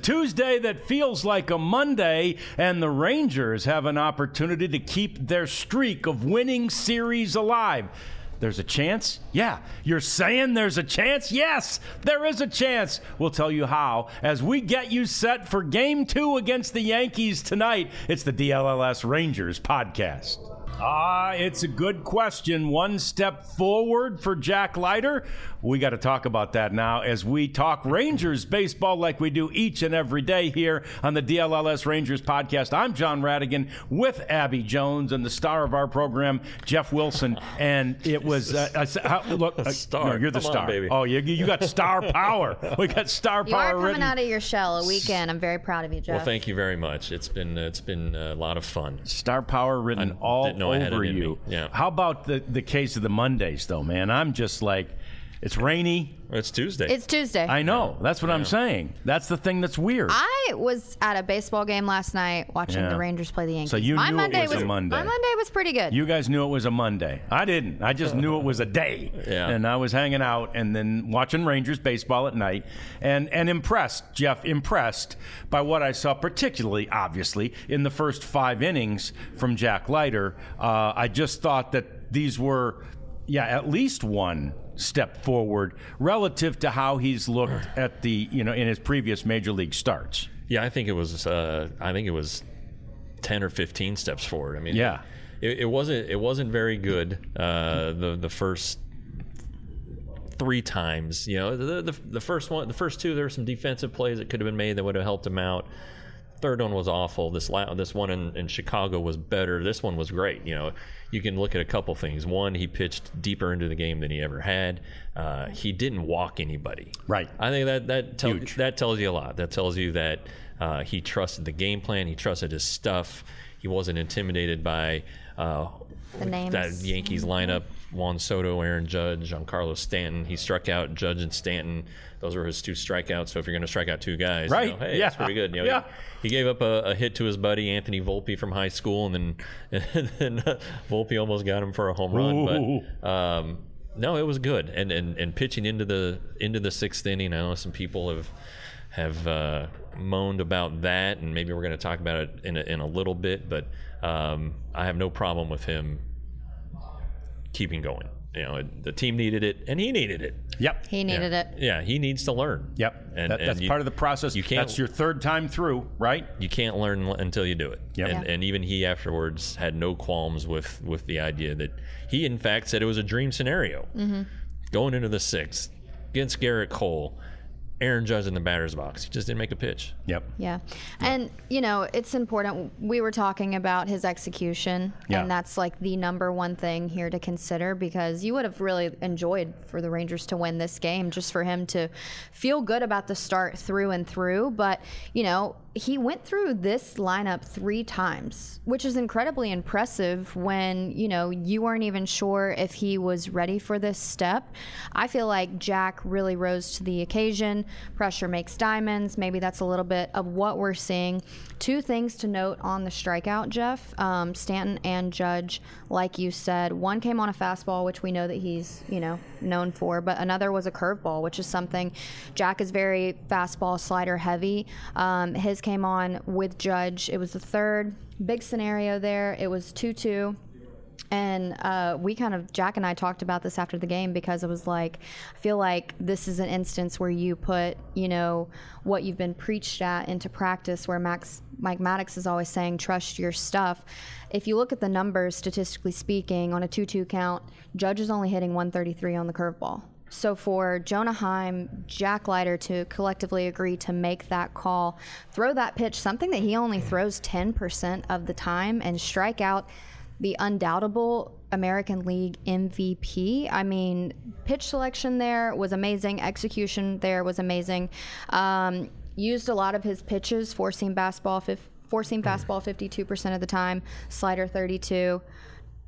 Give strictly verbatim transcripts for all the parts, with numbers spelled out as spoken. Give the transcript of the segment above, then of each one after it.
Tuesday that feels like a Monday, and the Rangers have an opportunity to keep their streak of winning series alive. There's a chance? Yeah. You're saying there's a chance? Yes, there is a chance. We'll tell you how as we get you set for Game two against the Yankees tonight. It's the D L L S Rangers podcast. Ah, it's a good question. One step forward for Jack Leiter. We got to talk about that now as we talk Rangers baseball like we do each and every day here on the D L L S Rangers podcast. I'm John Radigan with Abby Jones and the star of our program, Jeff Wilson. And it was, uh, uh, how, look, uh, star. No, you're the Come star. on, baby. Oh, you, you got star power. We got star You power are coming written. out of your shell a weekend. I'm very proud of you, Jeff. Well, thank you very much. It's been it's been a lot of fun. Star power written I all didn't know I had it over in you. me. Yeah. How about the, the case of the Mondays, though, man? I'm just like, it's rainy. It's Tuesday. It's Tuesday. I know. That's what I'm saying. That's the thing that's weird. I was at a baseball game last night watching Yeah. the Rangers play the Yankees. So you my knew Monday it was a Monday. My Monday was pretty good. You guys knew it was a Monday. I didn't. I just knew it was a day. Yeah. And I was hanging out and then watching Rangers baseball at night and, and impressed, Jeff, impressed by what I saw, particularly, obviously, in the first five innings from Jack Leiter. Uh, I just thought that these were, yeah, at least one step forward relative to how he's looked at the, you know, in his previous major league starts. yeah, I think it was. Uh, I think it was ten or fifteen steps forward. I mean, Yeah. it, it wasn't. It wasn't very good. Uh, the the first three times, you know, the, the the first one, the first two, there were some defensive plays that could have been made that would have helped him out. Third one was awful. This la- this one in, in Chicago was better. This one was great. You know, you can look at a couple things. One, he pitched deeper into the game than he ever had. Uh, he didn't walk anybody. Right. I think that that tell, Huge. that tells you a lot. That tells you that uh, he trusted the game plan. He trusted his stuff. He wasn't intimidated by uh, The names. that Yankees lineup. Juan Soto, Aaron Judge, Giancarlo Stanton. He struck out Judge and Stanton. Those were his two strikeouts. So if you're going to strike out two guys, Right. you know, hey, Yeah. that's pretty good. You know, Yeah. he, he gave up a, a hit to his buddy Anthony Volpe from high school, and then and then uh, Volpe almost got him for a home run. Ooh. But um, no, it was good. And, and and pitching into the into the sixth inning, I know some people have have uh, moaned about that, and maybe we're going to talk about it in a, in a little bit. But um, I have no problem with him keeping going. You know, the team needed it, and he needed it. Yep. he needed yeah. it. Yeah, he needs to learn. Yep. And, That- and that's you- part of the process. You can't, That's your third time through, right? you can't learn until you do it. Yep. And, Yeah. and even he afterwards had no qualms with, with the idea that he, in fact, said it was a dream scenario. Mm-hmm. Going into the sixth against Garrett Cole, Aaron Judge in the batter's box. He just didn't make a pitch. Yep. Yeah. And, you know, it's important. We were talking about his execution, Yeah. and that's like the number one thing here to consider, because you would have really enjoyed for the Rangers to win this game, just for him to feel good about the start through and through. But, you know, he went through this lineup three times, which is incredibly impressive when, you know, you weren't even sure if he was ready for this step. I feel like Jack really rose to the occasion. Pressure makes diamonds. Maybe that's a little bit of what we're seeing. Two things to note on the strikeout, Jeff. Um, Stanton and Judge, like you said, one came on a fastball, which we know that he's, you know, known for, but another was a curveball, which is something Jack is very fastball slider heavy. Um, his came on with Judge. It was the third big scenario there. It was two two. And uh, we kind of, Jack and I talked about this after the game, because it was like, I feel like this is an instance where you put, you know, what you've been preached at into practice, where Max, Mike Maddox is always saying, trust your stuff. If you look at the numbers, statistically speaking, on a two two count, Judge is only hitting one thirty-three on the curveball. So for Jonah Heim, Jack Leiter to collectively agree to make that call, throw that pitch, something that he only throws ten percent of the time, and strike out the undoubtable American League M V P. I mean, pitch selection there was amazing. Execution there was amazing. Um, used a lot of his pitches, forcing fastball, fif- forcing fastball fifty-two percent of the time, slider thirty-two.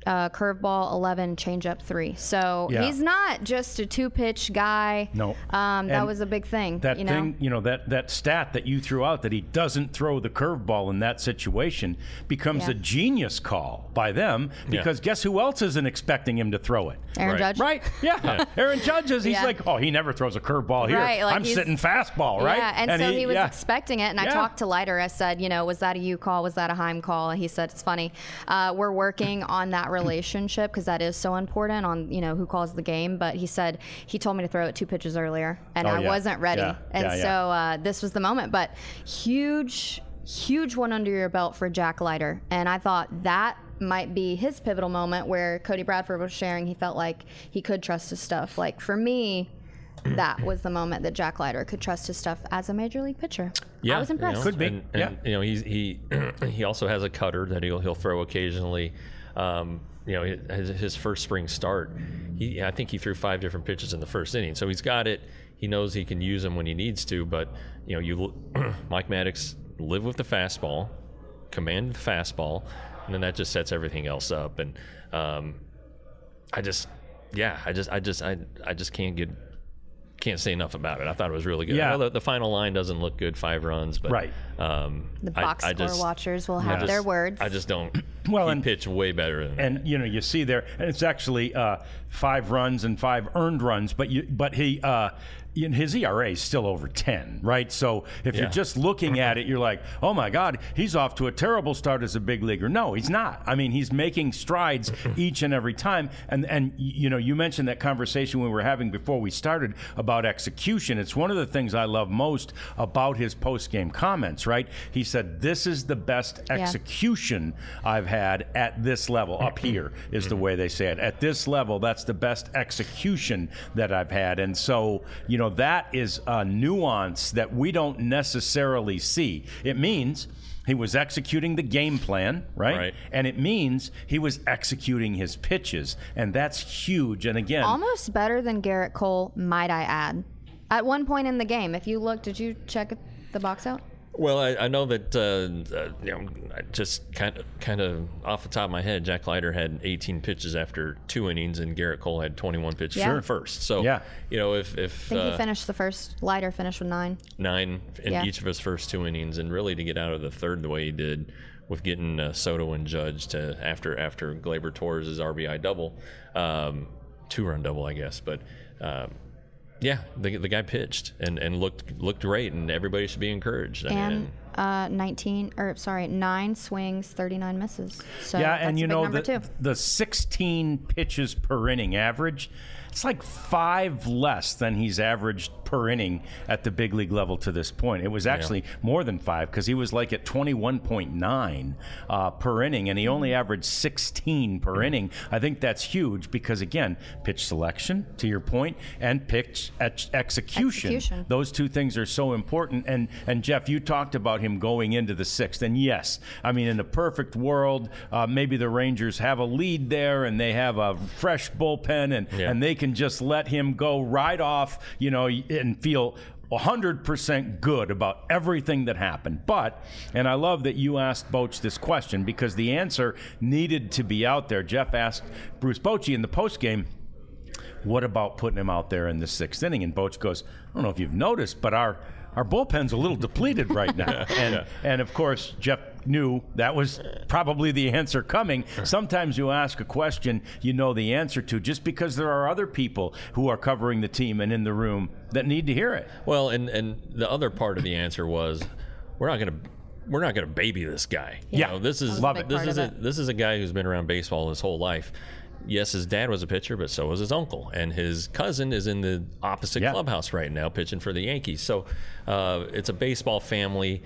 uh, curveball eleven, changeup three. So Yeah. he's not just a two-pitch guy. No. Um, that And was a big thing. That you know? thing, you know, that, that stat that you threw out that he doesn't throw the curveball in that situation becomes Yeah. a genius call by them because Yeah. guess who else isn't expecting him to throw it? Aaron Right. Judge. Right? Yeah. Aaron Judge is, he's Yeah. like, oh, he never throws a curveball here. Right, like I'm he's- sitting fastball, right? Yeah, and, so he, was yeah. expecting it. And I Yeah. talked to Leiter. I said, you know, was that a you call? Was that a Heim call? And he said, it's funny. Uh, we're working on that relationship because that is so important on, you know, who calls the game. But he said he told me to throw it two pitches earlier, and Oh, I yeah. wasn't ready. Yeah. And Yeah, yeah. so uh, this was the moment. But huge, huge one under your belt for Jack Leiter. And I thought that might be his pivotal moment where Cody Bradford was sharing he felt like he could trust his stuff. Like for me, that was the moment that Jack Leiter could trust his stuff as a major league pitcher. Yeah, I was impressed. You know, Could be, And, yeah. and, you know, he's, he he also has a cutter that he'll he'll throw occasionally. Um, you know, his, his first spring start, he I think he threw five different pitches in the first inning. So he's got it. He knows he can use them when he needs to. But you know, you Mike Maddox live with the fastball, command the fastball, and then that just sets everything else up. And um, I just, yeah, I just I just I I just can't get. Can't say enough about it. I thought it was really good. Yeah. I know the, the final line doesn't look good, five runs, but Right. Um, The I- box I, score just, watchers will I have just- their words. I just don't. Well, he and- pitched way better than that. And you know, you see there, and it's actually uh, five runs and five earned runs. But you, but he, uh, in his E R A is still over ten, right? So if Yeah. you're just looking at it, you're like, oh my God, he's off to a terrible start as a big leaguer. No, he's not. I mean, he's making strides each and every time. And and you know, you mentioned that conversation we were having before we started about execution. It's one of the things I love most about his post-game comments. Right? He said, "This is the best Yeah. execution I've had at this level. Up here is the way they say it. At this level, that's the best execution that I've had." And so, you know, that is a nuance that we don't necessarily see. It means he was executing the game plan, right? Right. And it means he was executing his pitches, and that's huge. And again, Almost better than Garrett Cole, might I add. At one point in the game, if you look, did you check the box out? Well, I, I know that uh, uh, you know, I just kind of, kind of off the top of my head, Jack Leiter had eighteen pitches after two innings, and Garrett Cole had twenty-one pitches Yeah. in the first. So, Yeah. you know, if if I think uh, he finished the first. Leiter finished with nine. nine in Yeah. each of his first two innings, and really to get out of the third the way he did, with getting uh, Soto and Judge to after after Gleyber Torres' R B I double, um, two run double, I guess, but. Um, Yeah, the the guy pitched and, and looked looked great, and everybody should be encouraged. I And mean, uh, nineteen, or sorry, nine swings, thirty-nine misses. So yeah, that's and a you big know number the, too. the sixteen pitches per inning average, it's like five less than he's averaged per inning at the big league level to this point. It was actually more than five because he was like at twenty-one point nine uh, per inning, and he only averaged sixteen per inning. I think that's huge because, again, pitch selection, to your point, and pitch ex- execution. Execution. Those two things are so important. And, and Jeff, you talked about him going into the sixth. And yes, I mean, in a perfect world, uh, maybe the Rangers have a lead there and they have a fresh bullpen and, Yeah. and they can just let him go right off, you know, and feel one hundred percent good about everything that happened. But, and I love that you asked Boch this question because the answer needed to be out there. Jeff asked Bruce Bochy in the postgame, what about putting him out there in the sixth inning? And Boch goes, I don't know if you've noticed, but our our bullpen's a little depleted right now. And Yeah. and of course, Jeff knew that was probably the answer coming. Sometimes you ask a question you know the answer to just because there are other people who are covering the team and in the room that need to hear it. well, and and the other part of the answer was, we're not gonna. We're not going to baby this guy. You Yeah. know, this is Love it. this Part is of a it. this is a guy who's been around baseball his whole life. Yes, his dad was a pitcher, but so was his uncle, and his cousin is in the opposite Yeah. clubhouse right now, pitching for the Yankees. So uh, it's a baseball family.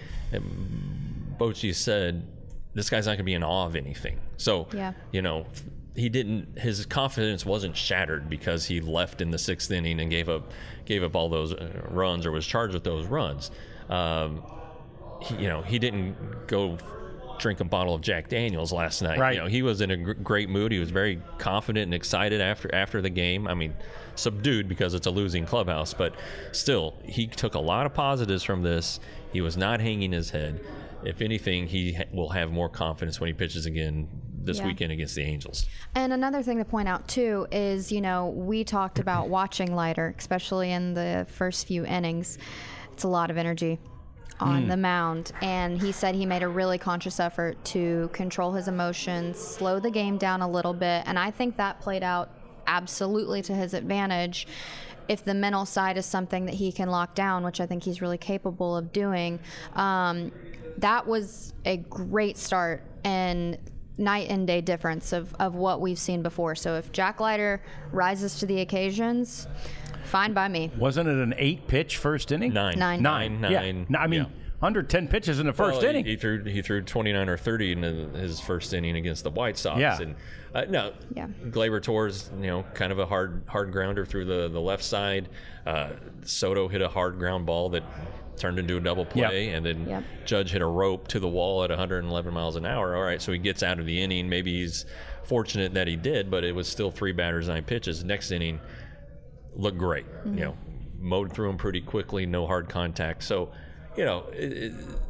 And Bochy said this guy's not going to be in awe of anything. So Yeah. you know, he didn't. His confidence wasn't shattered because he left in the sixth inning and gave up gave up all those uh, runs or was charged with those runs. Um, he, you know, he didn't go drink a bottle of Jack Daniels last night. Right. You know, he was in a gr- great mood. He was very confident and excited after after the game. I mean, subdued because it's a losing clubhouse, but still, he took a lot of positives from this. He was not hanging his head. If anything, he ha- will have more confidence when he pitches again this Yeah. weekend against the Angels. And another thing to point out too is, you know, we talked about watching Leiter, especially in the first few innings. It's a lot of energy on the mound, and he said he made a really conscious effort to control his emotions, slow the game down a little bit, and I think that played out absolutely to his advantage. If the mental side is something that he can lock down, which I think he's really capable of doing, um, that was a great start and night and day difference of, of what we've seen before. So if Jack Leiter rises to the occasions, fine by me. Wasn't it an eight-pitch first inning? Nine. Nine. Nine. Nine. Yeah. Nine. No, I mean, Yeah. under ten pitches in the first Well, inning. He, he threw he threw twenty-nine or thirty in his first inning against the White Sox. Yeah. And uh, no, Yeah. Gleyber Torres, you know, kind of a hard hard grounder through the, the left side. Uh, Soto hit a hard ground ball that turned into a double play, Yep. and then Yep. Judge hit a rope to the wall at one hundred eleven miles an hour. All right, so he gets out of the inning. Maybe he's fortunate that he did, but it was still three batters, nine pitches. Next inning looked great. Mm-hmm. You know, mowed through him pretty quickly, no hard contact. So, you know, it, it,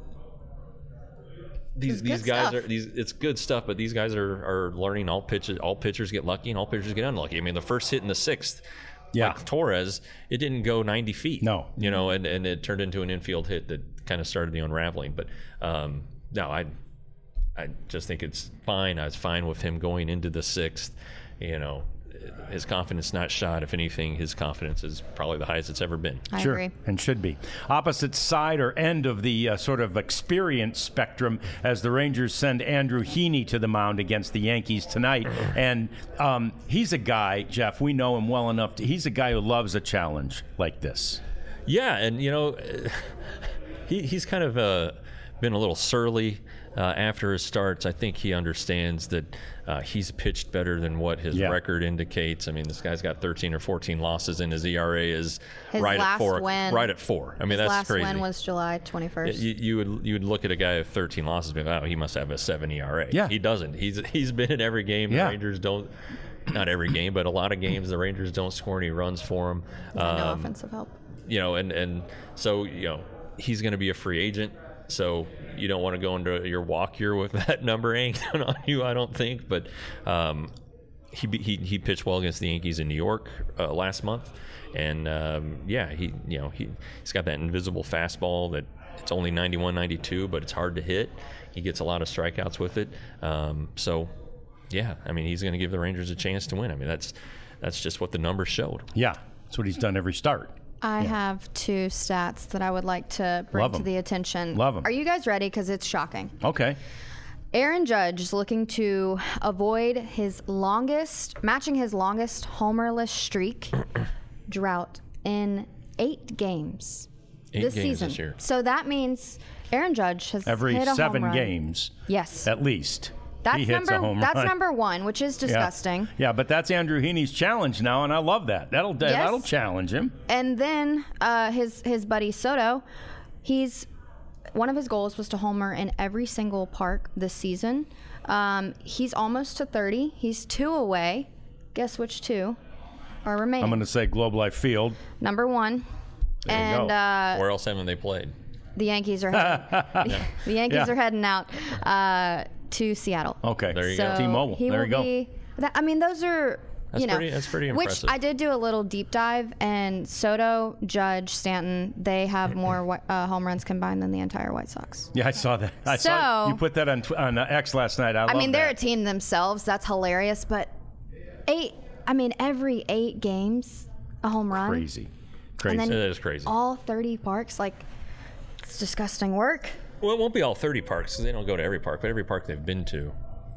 these It's these good guys stuff. are these. It's good stuff, but these guys are, are learning. All pitches, all pitchers get lucky, and all pitchers get unlucky. I mean, the first hit in the sixth. Yeah. Like Torres, it didn't go ninety feet. No. You know, and, and it turned into an infield hit that kind of started the unraveling. But um, no, I I just think it's fine. I was fine with him going into the sixth. You know, his confidence not shot. If anything, his confidence is probably the highest it's ever been. I Sure, agree. and should be. Opposite side or end of the uh, sort of experience spectrum as the Rangers send Andrew Heaney to the mound against the Yankees tonight. And um, he's a guy, Jeff, we know him well enough. To, he's a guy who loves a challenge like this. Yeah, and you know, he he's kind of uh, been a little surly uh, after his starts. I think he understands that uh, he's pitched better than what his Yeah. record indicates. I mean, this guy's got thirteen or fourteen losses, and his E R A is His right last at four. win- right at four. I mean, His that's last crazy. win was July twenty-first. You, you would you would look at a guy with thirteen losses and be like, oh, he must have a seven E R A. Yeah. He doesn't. He's he's been in every game. Yeah. The Rangers don't. Not every game, but a lot of games the Rangers don't score any runs for him. no Um, offensive help. you know, and, and so, you know, he's going to be a free agent. So you don't want to go into your walk year with that number hanging on you, I don't think. But um, he, he he pitched well against the Yankees in New York uh, last month. And, um, yeah, he you know, he, he's got that invisible fastball that it's only ninety-one, ninety-two, but it's hard to hit. He gets a lot of strikeouts with it. Um, so, yeah, I mean, he's going to give the Rangers a chance to win. I mean, that's that's just what the numbers showed. Yeah, that's what he's done every start. I have two stats that I would like to bring Love to 'em. the attention. Love 'em. Are you guys ready? Because it's shocking. Okay. Aaron Judge is looking to avoid his longest, matching his longest homerless streak drought in eight games Eight this games season. this year. So that means Aaron Judge has Every hit a seven home run. games, Yes, at least, that's he hits number a home that's run. number one, which is Yeah. disgusting. Yeah, but that's Andrew Heaney's challenge now, and I love that. That'll that'll challenge him. And then uh, his his buddy Soto, he's one of his goals was to homer in every single park this season. Um, he's almost to thirty. He's two away. Guess which two are remaining? I'm going to say Globe Life Field. Number one. There you and go. uh, Where else haven't they played? the Yankees are heading, the Yankees Yeah. are heading out uh, to Seattle. Okay. There you so go. T-Mobile. He There will you go. be. That, I mean, those are. That's you know, pretty- that's pretty which impressive. I did do a little deep dive, and Soto, Judge, Stanton, they have more wi- uh, home runs combined than the entire White Sox. Yeah, I saw that. I saw So- you put that on tw- on uh, X last night. I, I love mean, they're a that. team themselves. That's hilarious. But eight, I mean, every eight games, a home run. Crazy. Crazy. And then That is crazy. all thirty parks, like, it's disgusting work. Well, it won't be all thirty parks because they don't go to every park, but every park they've been to.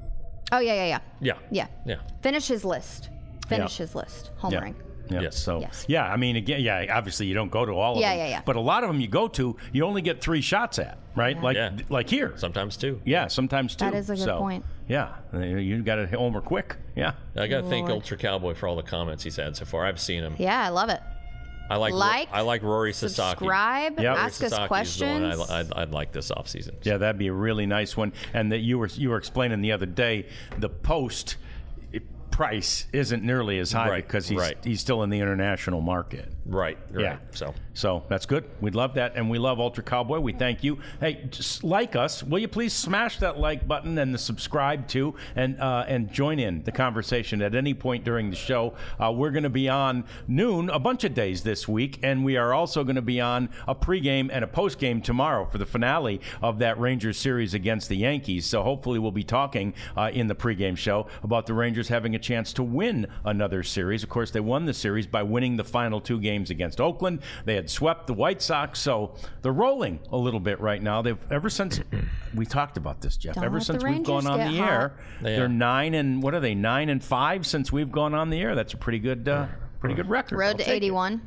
Oh, yeah, yeah, yeah. Yeah. Yeah. Yeah. Finish his list. Finish Yeah. his list. yeah. Homering. Yeah. Yes. So Yes. yeah, I mean, again, yeah. Obviously, you don't go to all of Yeah, them. yeah, yeah. But a lot of them you go to, you only get three shots at, right? Like Yeah. like here. Sometimes two. Yeah, sometimes two. That is a good So, point. Yeah, you got to homer quick. Yeah. I got to thank Lord. Ultra Cowboy for all the comments he's had so far. I've seen him. Yeah, I love it. I like Like, I like Rory Sasaki. Subscribe. Yep. Ask us Sasaki's questions. the one I, I'd, I'd like this offseason. Yeah, that'd be a really nice one. And that you were you were explaining the other day, the post price isn't nearly as high Right, because he's right. he's still in the international market. Right. Right. Yeah. So. So that's good. We'd love that. And we love Ultra Cowboy. We thank you. Hey, just like us. Will you please smash that like button and the subscribe too, and uh, and join in the conversation at any point during the show. Uh, we're going to be on noon a bunch of days this week, and we are also going to be on a pregame and a postgame tomorrow for the finale of that Rangers series against the Yankees. So hopefully we'll be talking uh, in the pregame show about the Rangers having a chance to win another series. Of course, they won the series by winning the final two games against Oakland. They had swept the White Sox, so they're rolling a little bit right now. They've ever since we talked about this, Jeff. Don't ever let since the we've gone Rangers on get the hot. air, Yeah. they're nine and what are they? Nine and five since we've gone on the air. That's a pretty good, uh, pretty good record. I'll Road to take it. eighty-one.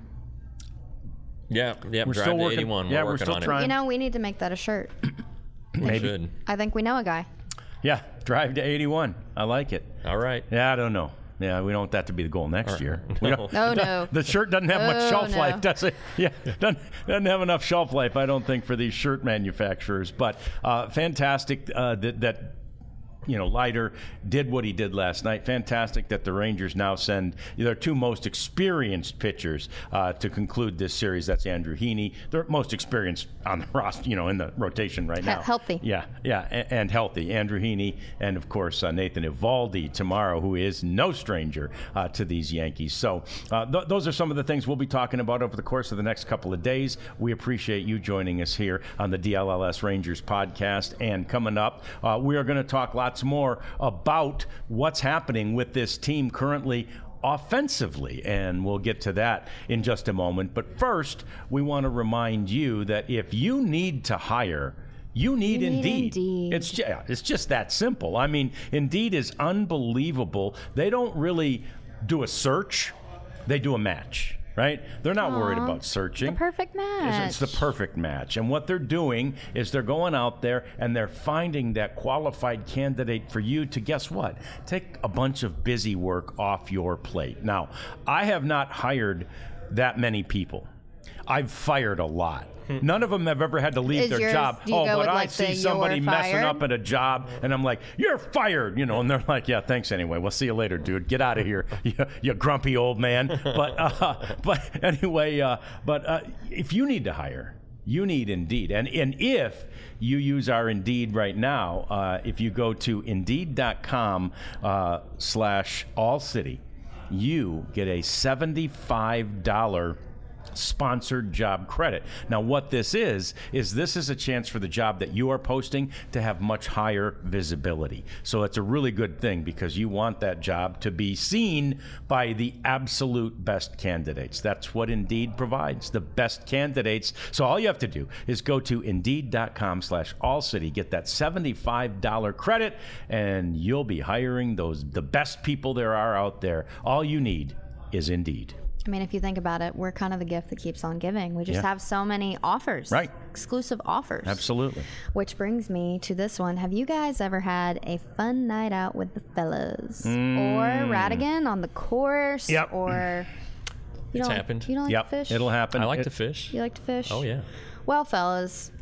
Yeah. Yeah. We're Drive still to working. eighty-one. Yeah, we're we're working still on trying. You know, we need to make that a shirt. it. Maybe. Should. I think we know a guy. Yeah, drive to eighty-one. I like it. All right. Yeah, I don't know. Yeah, we don't want that to be the goal next year. We don't, No, the, no. The shirt doesn't have much Oh, shelf no. life, does it? Yeah, doesn't, doesn't have enough shelf life, I don't think, for these shirt manufacturers. But uh, fantastic uh, that, that you know, Leiter did what he did last night. Fantastic that the Rangers now send their two most experienced pitchers uh, to conclude this series. That's Andrew Heaney. They're most experienced on the roster, you know, in the rotation right now. Healthy. Yeah, yeah, and, and healthy. Andrew Heaney and, of course, uh, Nathan Eovaldi tomorrow, who is no stranger uh, to these Yankees. So uh, th- those are some of the things we'll be talking about over the course of the next couple of days. We appreciate you joining us here on the D L L S Rangers podcast. And coming up, uh, we are going to talk lots more about what's happening with this team currently offensively, and we'll get to that in just a moment. But first, we want to remind you that if you need to hire, you need, You need Indeed. Indeed. It's just, it's just that simple. I mean, Indeed is unbelievable. They don't really do a search; they do a match. Right? They're not worried Aw, about searching. The perfect match. It's, it's the perfect match. And what they're doing is they're going out there and they're finding that qualified candidate for you to, guess what? Take a bunch of busy work off your plate. Now, I have not hired that many people. I've fired a lot. None of them have ever had to leave Is their yours- job. do you Oh, go but with, I like, see the somebody you're messing fired? up at a job, and I'm like, you're fired, you know, and they're like, yeah, thanks anyway. We'll see you later, dude. Get out of here, you, you grumpy old man. But uh, but anyway, uh, but uh, if you need to hire, you need Indeed. And, and if you use our Indeed right now, uh, if you go to Indeed.com uh, slash All City, you get a seventy-five dollars sponsored job credit. Now, what this is, is this is a chance for the job that you are posting to have much higher visibility. So it's a really good thing because you want that job to be seen by the absolute best candidates. That's what Indeed provides, the best candidates. So all you have to do is go to Indeed.com slash All City, get that seventy-five dollars credit, and you'll be hiring those the best people there are out there. All you need is Indeed. I mean, if you think about it, we're kind of the gift that keeps on giving. We just Yeah. have so many offers. Right. Exclusive offers. Absolutely. Which brings me to this one. Have you guys ever had a fun night out with the fellas? Or Radigan on the course? Yep. Or you It's don't, happened. You don't like Yep, to fish? it'll happen. I like It- to fish. You like to fish? Oh yeah. Well, fellas,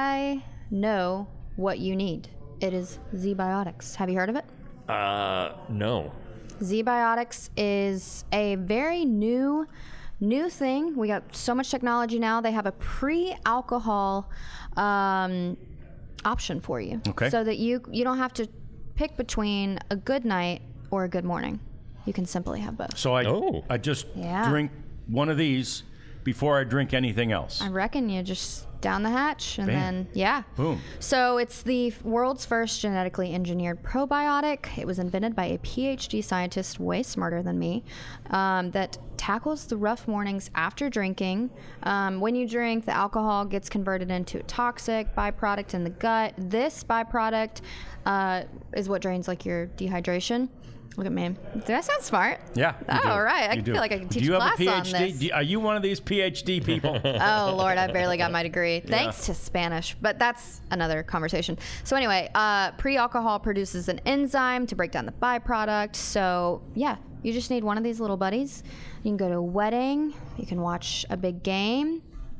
I know what you need. It is Z-Biotics. Have you heard of it? Uh, no. Z-Biotics is a very new new thing. We got so much technology now. They have a pre-alcohol um, option for you. Okay. So that you you don't have to pick between a good night or a good morning. You can simply have both. So I, Oh. I just Yeah. drink one of these before I drink anything else. I reckon you just down the hatch and Bam. then yeah. Boom. So it's the world's first genetically engineered probiotic. It was invented by a P H D scientist way smarter than me um, that tackles the rough mornings after drinking. Um, when you drink, the alcohol gets converted into a toxic byproduct in the gut. This byproduct uh, is what drains like your dehydration. Look at me. Did I sound smart? Yeah. you Oh, do. all right. I You feel do. like I can teach Do you a have a class PhD? on this. Do you- are you one of these PhD people? Oh Lord, I barely got my degree. Thanks to Spanish, but that's another conversation. So anyway, uh, pre-alcohol produces an enzyme to break down the byproduct. So yeah, you just need one of these little buddies. You can go to a wedding. You can watch a big game.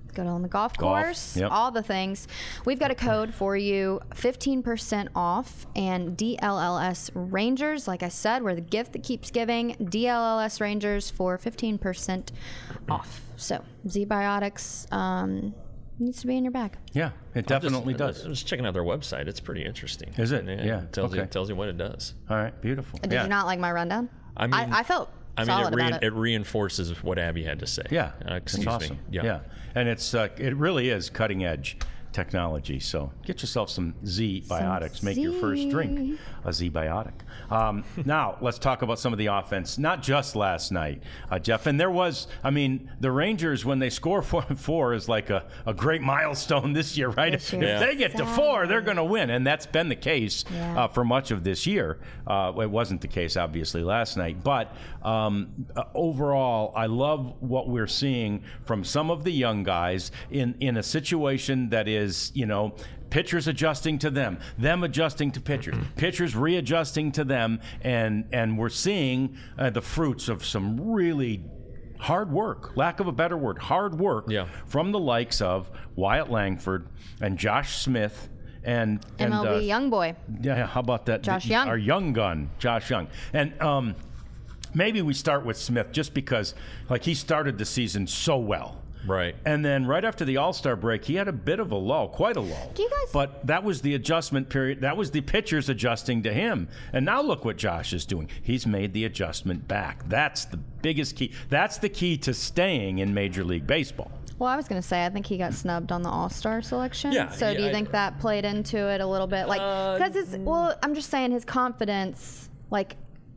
Go on the golf Golf, course, yep. all the things. We've got a code for you, fifteen percent off, and D L L S Rangers, like I said, we're the gift that keeps giving. D L L S Rangers for fifteen percent off. So, Z-Biotics um, needs to be in your bag. Yeah, it definitely just, does. I'm just checking out their website. It's pretty interesting. Is it? Yeah. Yeah, It tells, okay. you, tells you what it does. All right, beautiful. Did yeah. you not like my rundown? I mean, I, I felt I mean, solid it, re- about it. it reinforces what Abby had to say. Yeah, Uh, excuse it's awesome. me. Yeah. and it's uh, it really is cutting edge technology. So get yourself some Z Biotics. Make your first drink a Z Biotic. Um, now let's talk about some of the offense. Not just last night, uh, Jeff. And there was, I mean, the Rangers when they score four and four is like a, a great milestone this year, right? This If year. Yeah. they get to four, they're going to win, and that's been the case Yeah. uh, for much of this year. Uh, it wasn't the case, obviously, last night. But um, uh, overall, I love what we're seeing from some of the young guys in, in a situation that is, you know, pitchers adjusting to them, them adjusting to pitchers, pitchers readjusting to them, and, and we're seeing uh, the fruits of some really hard work, lack of a better word, hard work Yeah. from the likes of Wyatt Langford and Josh Smith and, and M L B uh, young boy. yeah, how about that? Josh The- Young. Our young gun, Josh Young. And um, maybe we start with Smith just because, like, he started the season so well. Right. And then right after the All-Star break, he had a bit of a lull, quite a lull. Do you guys- But that was the adjustment period. That was the pitchers adjusting to him. And now look what Josh is doing. He's made the adjustment back. That's the biggest key. That's the key to staying in Major League Baseball. Well, I was going to say, I think he got snubbed on the All-Star selection. Yeah, So do yeah, you I- think that played into it a little bit? Like, Uh, because it's, well, I'm just saying his confidence, like,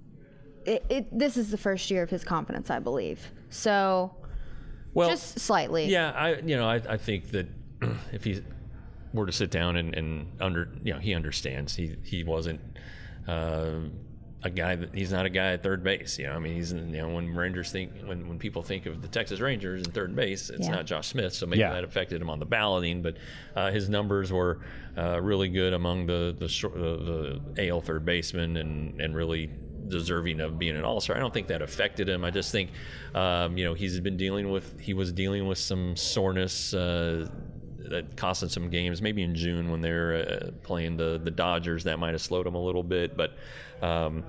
it, it, this is the first year of his confidence, I believe. So Well, just slightly. Yeah, I you know I, I think that if he were to sit down and, and under you know he understands he he wasn't uh, a guy that he's not a guy at third base. You know I mean he's in, you know when Rangers think when, when people think of the Texas Rangers in third base it's Yeah. not Josh Smith, so maybe Yeah. that affected him on the balloting. But uh, his numbers were uh, really good among the the, short, the the A L third basemen and and really deserving of being an all-star. I don't think that affected him. I just think, um, you know, he's been dealing with, he was dealing with some soreness uh, that cost him some games. Maybe in June when they're uh, playing the the Dodgers, that might have slowed him a little bit. But, um,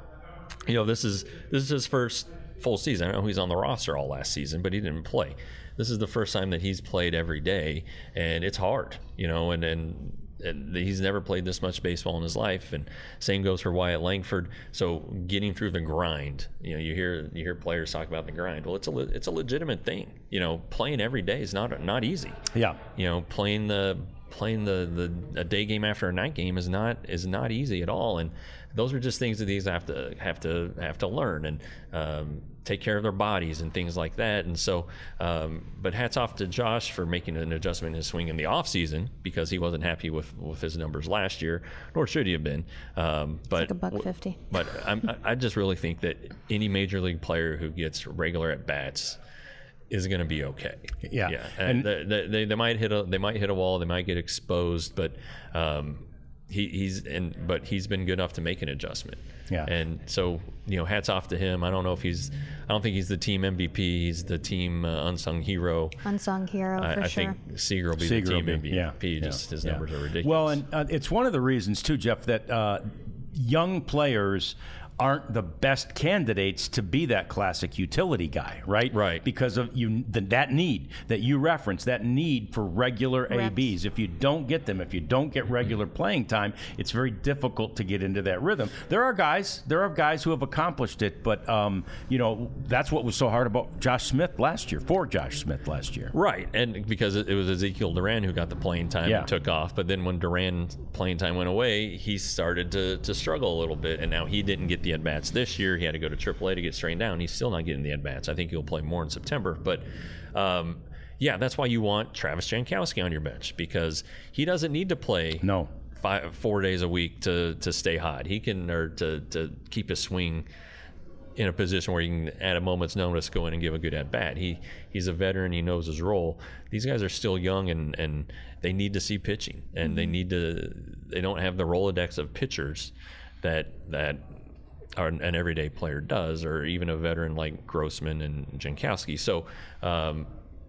you know, this is this is his first full season. I know he's on the roster all last season, but he didn't play. This is the first time that he's played every day, and it's hard, you know, and and. And he's never played this much baseball in his life, and same goes for Wyatt Langford. So getting through the grind, you know, you hear you hear players talk about the grind. Well, it's a le- it's a legitimate thing. You know, playing every day is not not easy. Yeah. You know, playing the playing the, the a day game after a night game is not is not easy at all. And those are just things that these have to have to have to learn and um, take care of their bodies and things like that. And so, um, but hats off to Josh for making an adjustment in his swing in the off season because he wasn't happy with, with his numbers last year, nor should he have been. Um, but like a buck fifty. But I'm, I just really think that any major league player who gets regular at bats is going to be okay. Yeah. yeah. And- And they, they, they might hit a they might hit a wall. They might get exposed, but um, he, he's and but he's been good enough to make an adjustment. Yeah. And so you know, hats off to him. I don't know if he's I don't think he's the team M V P. He's the team uh, unsung hero. Unsung hero, I, for I sure. think Seager will be Seager the will team be- M V P. yeah, Just yeah, his yeah. numbers are ridiculous. Well, and uh, it's one of the reasons too, Jeff, that uh, young players aren't the best candidates to be that classic utility guy, right? Right. Because of you, the, that need that you reference, that need for regular Reps. A Bs. If you don't get them, if you don't get regular playing time, it's very difficult to get into that rhythm. There are guys, there are guys who have accomplished it, but um, you know that's what was so hard about Josh Smith last year, for Josh Smith last year. Right, and because it it was Ezekiel Duran who got the playing time Yeah. and took off, but then when Duran's playing time went away, he started to, to struggle a little bit, and now he didn't get the at-bats this year. He had to go to triple A to get straightened down. He's still not getting the at-bats. I think he'll play more in September, but um, yeah, that's why you want Travis Jankowski on your bench, because he doesn't need to play No. five, four days a week to, to stay hot. He can, or to, to keep his swing in a position where he can, at a moment's notice, go in and give a good at bat. He he's a veteran. He knows his role. These guys are still young, and, and they need to see pitching, and mm-hmm. they need to. They don't have the Rolodex of pitchers that that are an everyday player does, or even a veteran like Grossman and Jankowski. So. Um,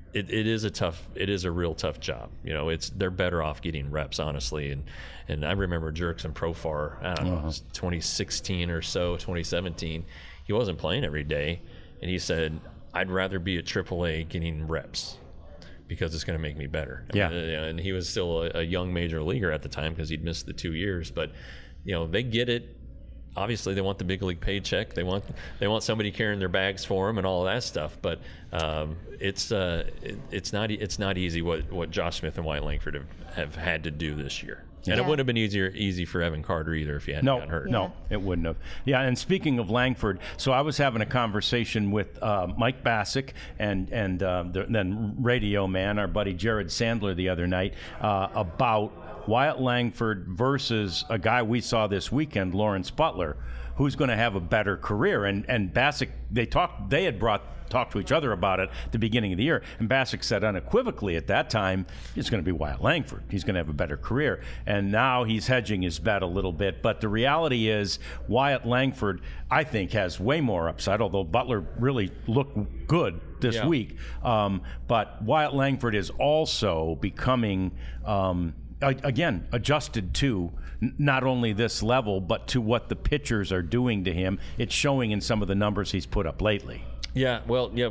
it, it is a tough, it is a real tough job. You know, it's they're better off getting reps, honestly. And and I remember Jurickson Profar, I don't know, Uh-huh. it was twenty sixteen or so, twenty seventeen. He wasn't playing every day, and he said, "I'd rather be at triple A getting reps because it's going to make me better." I Yeah. mean, and he was still a, a young major leaguer at the time because he'd missed the two years. But you know, they get it. Obviously, they want the big league paycheck. They want they want somebody carrying their bags for them and all of that stuff. But um, it's uh, it, it's not it's not easy what, what Josh Smith and Wyatt Langford have, have had to do this year. And Yeah. it wouldn't have been easier easy for Evan Carter either if he hadn't No, gotten hurt. no, it wouldn't have. Yeah, and speaking of Langford, so I was having a conversation with uh, Mike Bassick and and uh, the, then Radio Man, our buddy Jared Sandler, the other night uh, about Wyatt Langford versus a guy we saw this weekend, Lawrence Butler, who's going to have a better career. And and Bassick, they talked, they had brought talked to each other about it at the beginning of the year, and Bassick said unequivocally at that time, it's going to be Wyatt Langford. He's going to have a better career. And now he's hedging his bet a little bit. But the reality is, Wyatt Langford, I think, has way more upside, although Butler really looked good this Yeah. week. Um, but Wyatt Langford is also becoming, um, a- again, adjusted to n- not only this level, but to what the pitchers are doing to him. It's showing in some of the numbers he's put up lately. Yeah, well, yeah.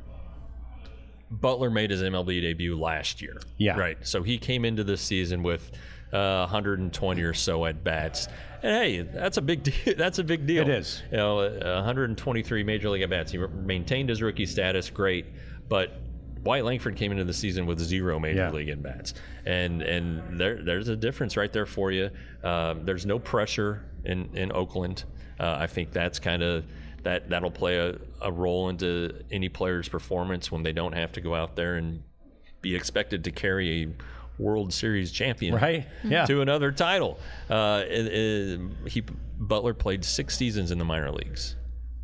Butler made his M L B debut last year. Yeah. Right. So he came into this season with uh, one hundred twenty or so at bats. And hey, that's a big deal. That's a big deal. It is. You know, uh, one hundred twenty-three major league at bats. He re- maintained his rookie status, great. But Wyatt Langford came into the season with zero major Yeah. league at bats, and and there there's a difference right there for you. Um, there's no pressure in in Oakland. Uh, I think that's kind of that that'll play a, a role into any player's performance when they don't have to go out there and be expected to carry a World Series champion Right? Yeah. to another title. Uh, it, it, he Butler played six seasons in the minor leagues.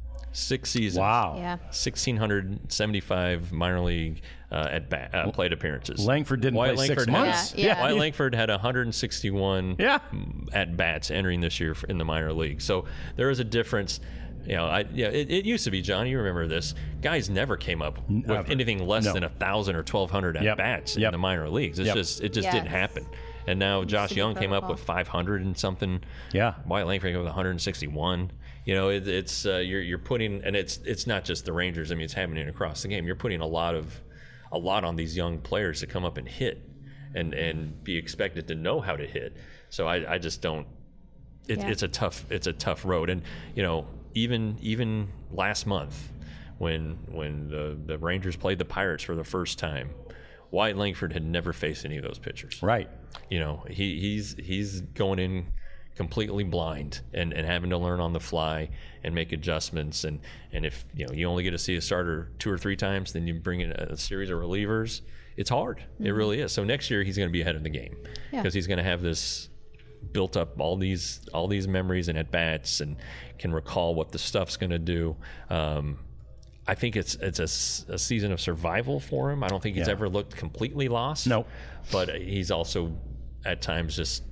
Six seasons. Wow. Yeah. one thousand six hundred seventy-five minor league uh, at bat, uh, plate appearances. Langford didn't Wyatt play six Langford had- months. Yeah, yeah. Wyatt Langford had one hundred sixty-one Yeah. at bats entering this year in the minor league. So there is a difference. You know, I yeah, it, it used to be, John. You remember this? Guys never came up with Never. anything less No. than a thousand or twelve hundred at Yep. bats Yep. in the minor leagues. It's Yep. just it just Yes. didn't happen. And now Josh to be Young came up protocol. with five hundred and something. Yeah. Wyatt Langford came up with one hundred sixty-one. You know, it, it's uh, you're you're putting, and it's it's not just the Rangers. I mean, it's happening across the game. You're putting a lot of a lot on these young players to come up and hit, and and be expected to know how to hit. So I, I just don't. It, Yeah. It's a tough it's a tough road, and you know even even last month when when the the Rangers played the Pirates for the first time, Wyatt Langford had never faced any of those pitchers. Right. You know, he, he's he's going in completely blind and, and having to learn on the fly and make adjustments. And, and if you know you only get to see a starter two or three times, then you bring in a series of relievers. It's hard. Mm-hmm. It really is. So next year he's going to be ahead of the game Yeah. because he's going to have this built up all these all these memories and at bats and can recall what the stuff's going to do. Um, I think it's it's a, s- a season of survival for him. I don't think he's Yeah. ever looked completely lost. No. But he's also at times just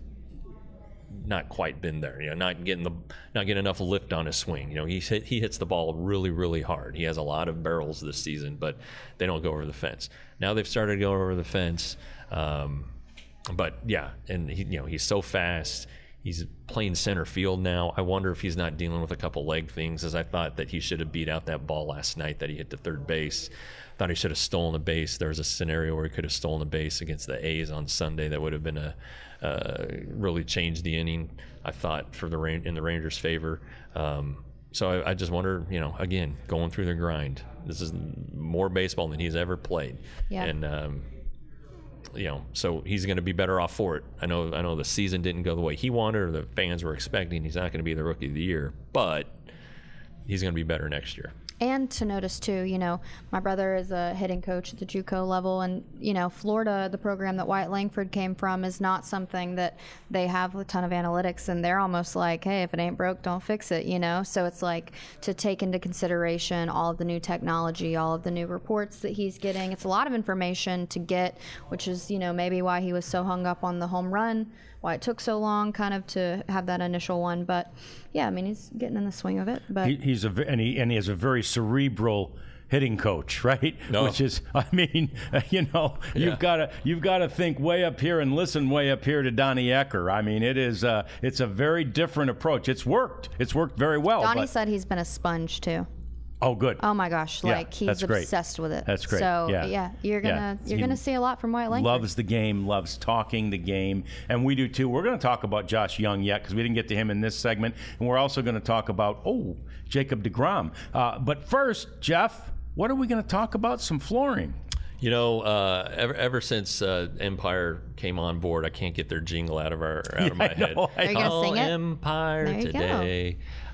not quite been there. You know, not getting the not getting enough lift on his swing. You know, he hit, he hits the ball really really hard. He has a lot of barrels this season, but they don't go over the fence. Now they've started to go over the fence. Um, but yeah, and he, you know, he's so fast. He's playing center field now. I wonder if he's not dealing with a couple leg things, as I thought that he should have beat out that ball last night that he hit to third base. Thought he should have stolen a base. There was a scenario where he could have stolen a base against the A's on Sunday that would have been a uh, really changed the inning, I thought, for the Ran- in the Rangers' favor. Um, so I, I just wonder, you know, again, going through the grind. This is more baseball than he's ever played. Yeah. And um, you know, so he's going to be better off for it. I know, I know the season didn't go the way he wanted or the fans were expecting. He's not going to be the rookie of the year, but he's going to be better next year. And to notice too, you know, my brother is a hitting coach at the JUCO level, and you know, Florida, the program that Wyatt Langford came from, is not something that they have a ton of analytics, and they're almost like, hey, if it ain't broke, don't fix it, you know. So it's like to take into consideration all of the new technology, all of the new reports that he's getting. It's a lot of information to get, which is, you know, maybe why he was so hung up on the home run, why it took so long, kind of to have that initial one. But yeah, I mean, he's getting in the swing of it. But He, he's a ve- and he and he has a very cerebral hitting coach, right? No. Which is, I mean, you know, Yeah. you've got to you've got to think way up here and listen way up here to Donnie Ecker. I mean, it is uh, it's a very different approach. It's worked. It's worked very well. Donnie but, said he's been a sponge too. oh, good. Oh my gosh, Yeah, like he's that's great. obsessed with it. That's great. So Yeah. you're gonna Yeah. you're He gonna see a lot from Wyatt Langford. Loves the game, loves talking the game, and we do too. We're going to talk about Josh Young yet because we didn't get to him in this segment, and we're also going to talk about oh Jacob deGrom. Uh, but first, Jeff, what are we going to talk about? Some flooring. You know, uh, ever ever since uh, Empire came on board, I can't get their jingle out of our out of my I head. know, I Are you gonna Oh, sing it? Empire There you go. today.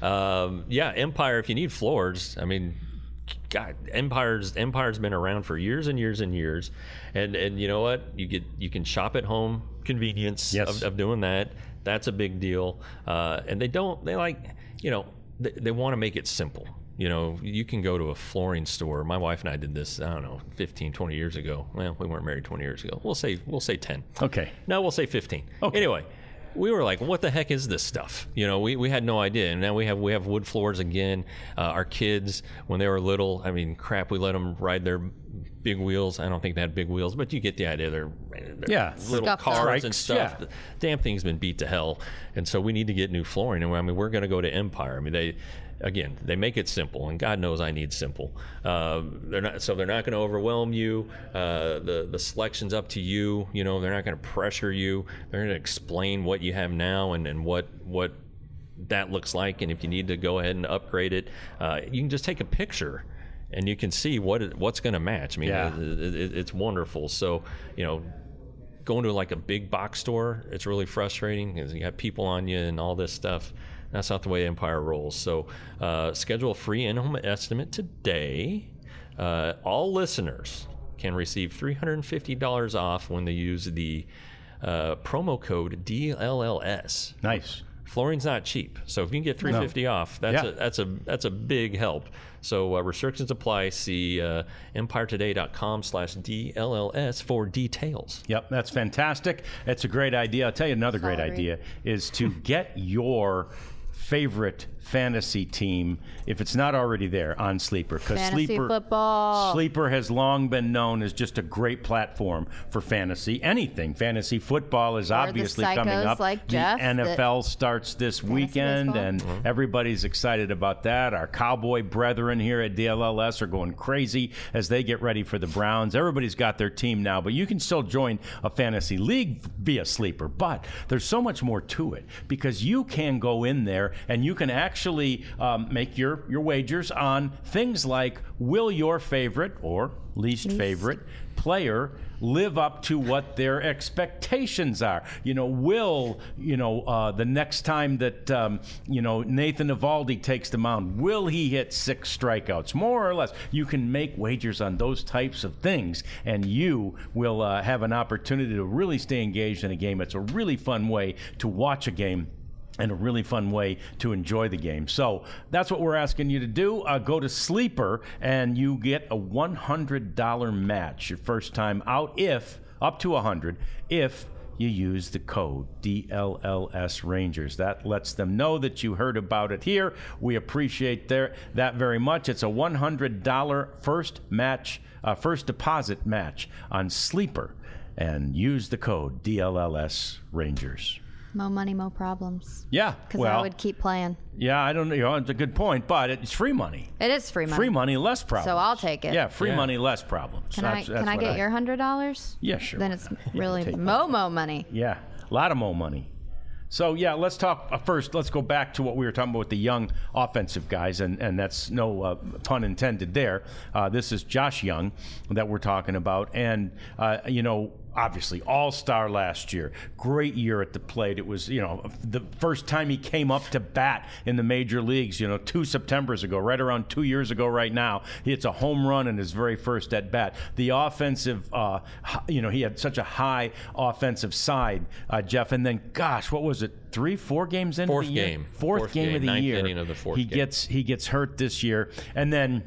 Um, yeah, Empire. If you need floors, I mean, God, Empire's Empire's been around for years and years and years, and and you know what? You get you can shop at home, convenience Yes. of, of doing that. That's a big deal. Uh, and they don't. They like you know they, they want to make it simple. You know, you can go to a flooring store. My wife and I did this, I don't know, fifteen, twenty years ago. Well, we weren't married twenty years ago. We'll say we'll say ten. Okay. No, we'll say fifteen. Okay. Anyway, we were like, what the heck is this stuff? You know, we, we had no idea. And now we have we have wood floors again. Uh, our kids, when they were little, I mean, crap, we let them ride their big wheels. I don't think they had big wheels, but you get the idea. They're, they're Yeah. little Scuffed up. cars and Trikes, stuff. yeah. The damn thing's been beat to hell. And so we need to get new flooring. And I mean, we're going to go to Empire. I mean, they... Again, they make it simple, and God knows I need simple. Uh, they're not, so they're not going to overwhelm you. Uh, the the selection's up to you. You know, they're not going to pressure you. They're going to explain what you have now and, and what what that looks like. And if you need to go ahead and upgrade it, uh, you can just take a picture, and you can see what it, what's going to match. I mean, Yeah. it, it, it's wonderful. So, you know. Going to like a big box store, it's really frustrating because you have people on you and all this stuff. That's not the way Empire rolls. So uh, schedule a free in-home estimate today. Uh, all listeners can receive three hundred fifty dollars off when they use the uh, promo code D L L S. Nice. Flooring's not cheap, so if you can get three hundred fifty dollars off, that's Yeah. a that's a that's a big help. So uh, restrictions apply. See uh, empiretoday.com slash D L L S for details. Yep, that's fantastic. It's a great idea. I'll tell you another great Sorry. idea is to get your favorite fantasy team, if it's not already there, on Sleeper. Because Fantasy Sleeper, football. Sleeper has long been known as just a great platform for fantasy. Anything. Fantasy football is Or the obviously coming psychos up. like the Jeff N F L starts this weekend, baseball. and everybody's excited about that. Our Cowboy brethren here at D L L S are going crazy as they get ready for the Browns. Everybody's got their team now, but you can still join a fantasy league via Sleeper. But there's so much more to it because you can go in there and you can actually um, make your, your wagers on things like, will your favorite or least favorite player live up to what their expectations are? You know, will, you know, uh, the next time that, um, you know, Nathan Eovaldi takes the mound, will he hit six strikeouts? More or less. You can make wagers on those types of things, and you will uh, have an opportunity to really stay engaged in a game. It's a really fun way to watch a game and a really fun way to enjoy the game. So that's what we're asking you to do. Uh, go to Sleeper, and you get a one hundred dollars match your first time out, if, up to one hundred dollars, if you use the code D L L S Rangers. That lets them know that you heard about it here. We appreciate their, that very much. It's a one hundred dollars first match, uh, first deposit match on Sleeper, and use the code D L L S Rangers. Mo money, mo problems. Yeah, Because well, I would keep playing. yeah, I don't know. You know, it's a good point, but it's free money. It is free money. Free money, less problems. So I'll take it. Yeah, free Yeah. money, less problems. Can I That's- that's can I what get your hundred dollars? Yeah, sure. Then it's really take Momo money. Yeah, a lot of more money. So, yeah, let's talk uh, first. Let's go back to what we were talking about with the young offensive guys, and, and that's no uh, pun intended there. Uh, this is Josh Young that we're talking about. And, uh, you know, obviously all-star last year. Great year at the plate. It was, you know, the first time he came up to bat in the major leagues, you know, two Septembers ago, right around two years ago right now. He hits a home run in his very first at bat. The offensive, uh, h- you know, he had such a high offensive side, uh, Jeff. And then, gosh, what was it? Three, four games into Fourth the year? game. Fourth, Fourth game, game, of the ninth year. inning of the fourth he game. gets he gets hurt this year. And then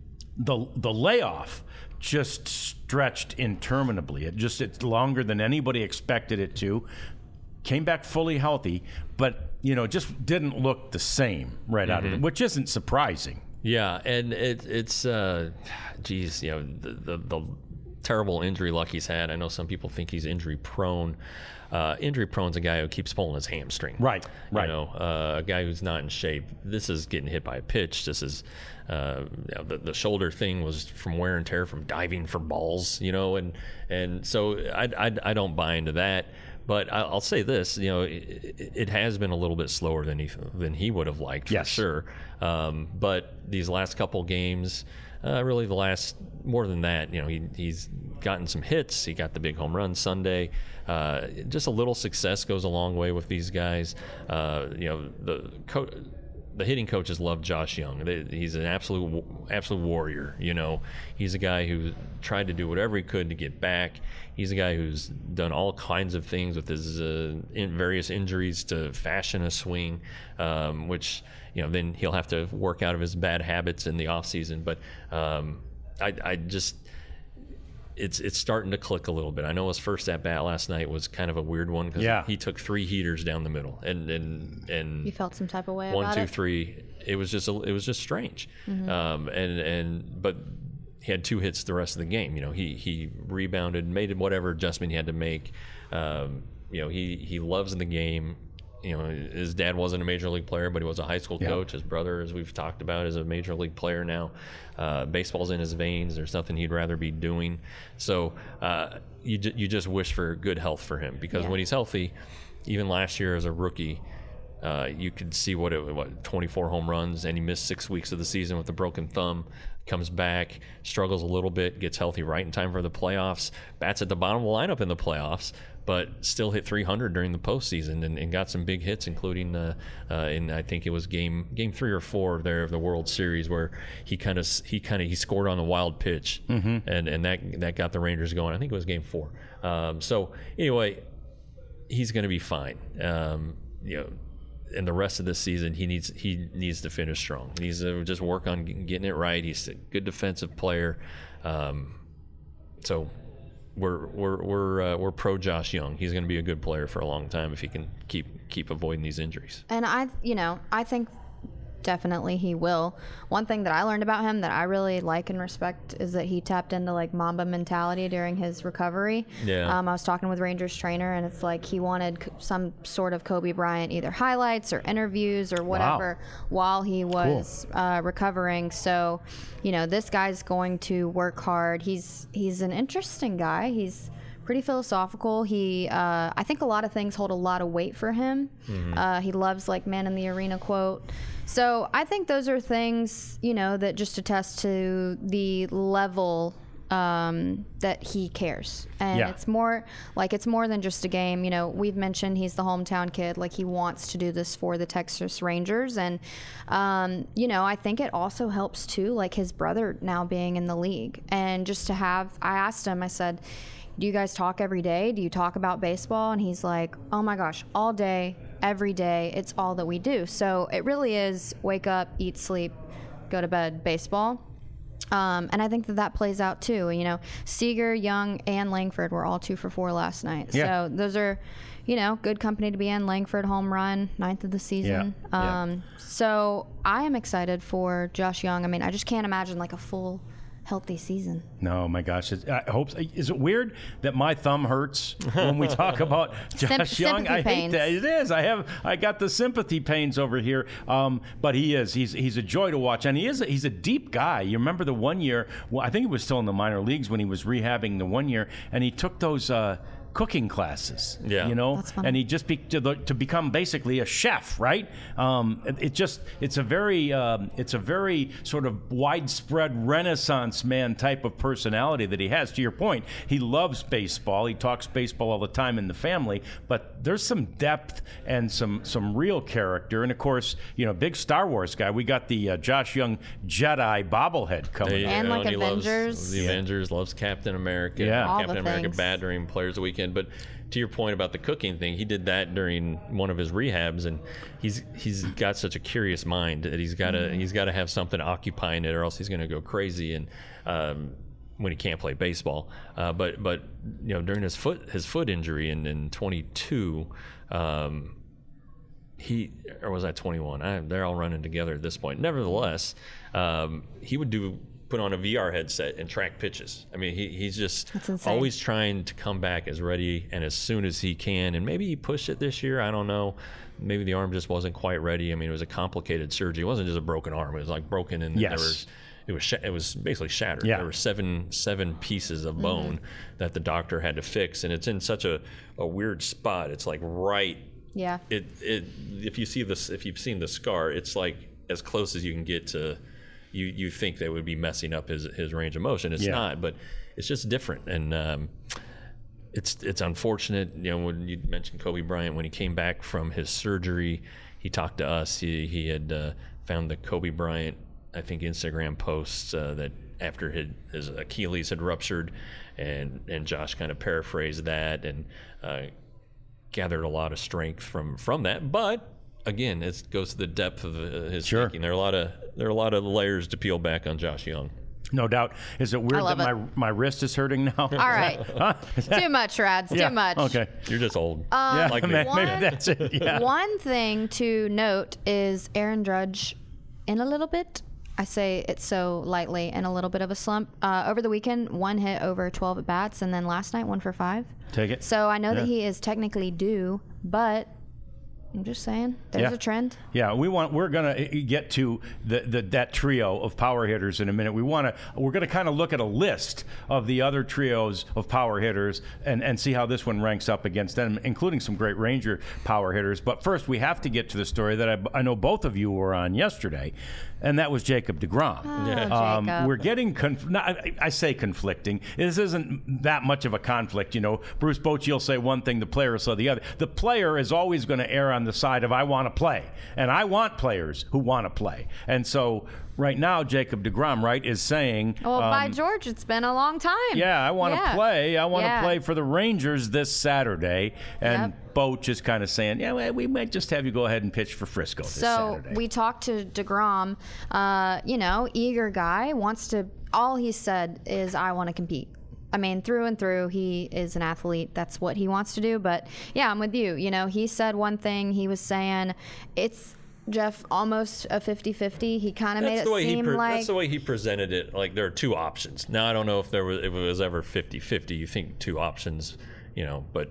the the layoff just stretched interminably. It just it's longer than anybody expected it to. Came back fully healthy, but you know, just didn't look the same right out of it, which isn't surprising. Yeah, and it, it's, uh, geez, you know, the, the, the terrible injury luck he's had. I know some people think he's injury prone. Uh, injury prone's a guy who keeps pulling his hamstring. Right, right. You know, uh, a guy who's not in shape. This is getting hit by a pitch. This is, uh, you know, the, the shoulder thing was from wear and tear from diving for balls, you know, and, and so I, I, I don't buy into that. But I'll say this, you know, it, it has been a little bit slower than he than he would have liked, for yes. sure. Um, but these last couple games, uh, really the last, more than that, you know, he, he's gotten some hits. He got the big home run Sunday. Uh, just a little success goes a long way with these guys. Uh, you know, the co- the hitting coaches love Josh Young. They, he's an absolute absolute warrior. You know, he's a guy who tried to do whatever he could to get back. He's a guy who's done all kinds of things with his uh, in various injuries to fashion a swing, um, which, you know, then he'll have to work out of his bad habits in the off season. But um, I, I just. It's it's starting to click a little bit. I know his first at bat last night was kind of a weird one because yeah. he took three heaters down the middle, and and and You felt some type of way one, about two, it? three. It was just a, it was just strange. Mm-hmm. Um, and and but he had two hits the rest of the game. You know, he he rebounded, made whatever adjustment he had to make. Um, you know, he he loves the game. You know, his dad wasn't a major league player, but he was a high school yeah. coach. His brother, as we've talked about, is a major league player now. Uh, baseball's in his veins. There's nothing he'd rather be doing. So uh, you ju- you just wish for good health for him, because yeah. when he's healthy, even last year as a rookie, uh, you could see what it what twenty-four home runs, and he missed six weeks of the season with a broken thumb. Comes back, struggles a little bit, gets healthy right in time for the playoffs, bats at the bottom of the lineup in the playoffs, but still hit three hundred during the postseason and, and got some big hits, including uh, uh, in I think it was game game three or four there of the World Series, where he kind of he kind of he scored on a wild pitch, mm-hmm. and and that that got the Rangers going. I think it was game four. Um, so anyway, he's going to be fine. Um, you know. And the rest of this season, he needs he needs to finish strong. He needs to just work on getting it right. He's a good defensive player, um, so we're we're we're uh, we're pro Josh Young. He's going to be a good player for a long time if he can keep keep avoiding these injuries. And I, you know, I think definitely he will. One thing that I learned about him that I really like and respect is that he tapped into like Mamba mentality during his recovery. Yeah. Um, I was talking with Rangers trainer, and it's like he wanted some sort of Kobe Bryant either highlights or interviews or whatever wow. while he was cool. uh, recovering. So, you know, this guy's going to work hard. He's he's an interesting guy. He's pretty philosophical. He, uh, I think a lot of things hold a lot of weight for him. Mm-hmm. Uh, he loves like man in the arena quote. So I think those are things, you know, that just attest to the level um, that he cares. And yeah. it's more like it's more than just a game. You know, we've mentioned he's the hometown kid. Like he wants to do this for the Texas Rangers. And, um, you know, I think it also helps too, like his brother now being in the league. And just to have, I asked him, I said, do you guys talk every day? Do you talk about baseball? And he's like, oh my gosh, all day, every day. It's all that we do. So it really is wake up, eat, sleep, go to bed, baseball. Um, and I think that that plays out too. You know, Seager, Young, and Langford were all two for four last night. Yeah. So those are, you know, good company to be in. Langford home run, ninth of the season. Yeah. Um, yeah. So I am excited for Josh Young. I mean, I just can't imagine like a full healthy season. No, my gosh. It's, I hope. Is it weird that my thumb hurts when we talk about Josh Symp- Young? I pains. hate that. It is. I have. I got the sympathy pains over here. Um, but he is. He's he's a joy to watch, and he is. A, he's a deep guy. You remember the one year? Well, I think he was still in the minor leagues when he was rehabbing the one year, and he took those. Uh, cooking classes, yeah, you know, That's funny. and he just be, to, the, to become basically a chef, right? Um, it, it just it's a very um, it's a very sort of widespread Renaissance man type of personality that he has. To your point, he loves baseball. He talks baseball all the time in the family, but there's some depth and some some real character, and of course, you know, big Star Wars guy. We got the uh, Josh Young Jedi bobblehead coming. They, up. And you know, like he Avengers. Loves the Yeah. Avengers, loves Captain America. Yeah. All Captain the America things. bad during Players of the Weekend. But to your point about the cooking thing, he did that during one of his rehabs, and he's he's got such a curious mind that he's got to Mm-hmm. he's got to have something occupying it, or else he's going to go crazy. And um, when he can't play baseball, uh, but but you know, during his foot his foot injury in in twenty-two. Um, he, or was I twenty-one? I, they're all running together at this point. Nevertheless, um, he would do put on a V R headset and track pitches. I mean, he, he's just always trying to come back as ready and as soon as he can. And maybe he pushed it this year. I don't know. Maybe the arm just wasn't quite ready. I mean, it was a complicated surgery. It wasn't just a broken arm. It was like broken, and yes. there was it was sh- it was basically shattered. Yeah. There were seven seven pieces of bone mm-hmm. that the doctor had to fix, and it's in such a, a weird spot. It's like right. Yeah. It it if you see this if you've seen the scar, it's like as close as you can get to. You you think they would be messing up his his range of motion. It's yeah. not, but it's just different, and um, it's it's unfortunate. You know, when you mentioned Kobe Bryant, when he came back from his surgery, he talked to us. He he had uh, found the Kobe Bryant, I think, Instagram posts uh, that after his, his Achilles had ruptured, and and Josh kind of paraphrased that and uh, gathered a lot of strength from from that, but. Again, it goes to the depth of uh, his sure. thinking. There are a lot of there are a lot of layers to peel back on Josh Young. No doubt. Is it weird that it. my my wrist is hurting now? All right. Too much, Rads. Yeah. Too much. Okay. You're just old. Um, yeah, like maybe, one, maybe that's it. Yeah. One thing to note is Aaron Judge in a little bit. I say it so lightly, in a little bit of a slump. Uh, over the weekend, one hit over twelve at bats, and then last night, one for five. Take it. So I know yeah. that he is technically due, but I'm just saying, there's yeah. a trend. Yeah, we want. We're gonna get to the, the that trio of power hitters in a minute. We want to. We're gonna kind of look at a list of the other trios of power hitters and, and see how this one ranks up against them, including some great Ranger power hitters. But first, we have to get to the story that I, I know both of you were on yesterday, and that was Jacob deGrom. Oh, yeah. um, Jacob. We're getting. Conf- not, I, I say conflicting. This isn't that much of a conflict. You know, Bruce Bochy will say one thing, the player will say the other. The player is always going to err on the side of I want to play, and I want players who want to play. And so right now, Jacob deGrom, right, is saying, well, um, by George, it's been a long time. Yeah, I want to yeah. play. I want to yeah. play for the Rangers this Saturday. And yep. Boch is kind of saying, yeah, well, we might just have you go ahead and pitch for Frisco this so Saturday. So we talked to deGrom. Uh, you know, eager guy, wants to. All he said is, I want to compete. I mean, through and through, he is an athlete. That's what he wants to do. But yeah, I'm with you. You know, he said one thing. He was saying it's, Jeff, almost a fifty-fifty. He kind of made it seem pre- like. That's the way he presented it. Like there are two options. Now, I don't know if there was if it was ever fifty-fifty. You think two options, you know, but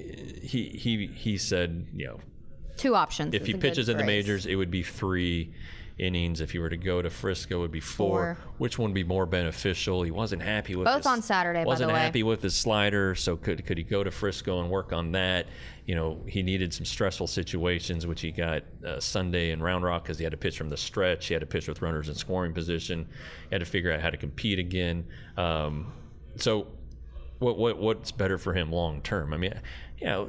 he he he said, you know. Two options. If he pitches in the majors, it would be three innings. If he were to go to Frisco, it would be four. four. Which one would be more beneficial? He wasn't happy with both his, on Saturday. Wasn't by the way. happy with his slider, so could could he go to Frisco and work on that? You know, he needed some stressful situations, which he got uh, Sunday in Round Rock because he had to pitch from the stretch. He had to pitch with runners in scoring position. He had to figure out how to compete again. Um, so, what what what's better for him long term? I mean, you know,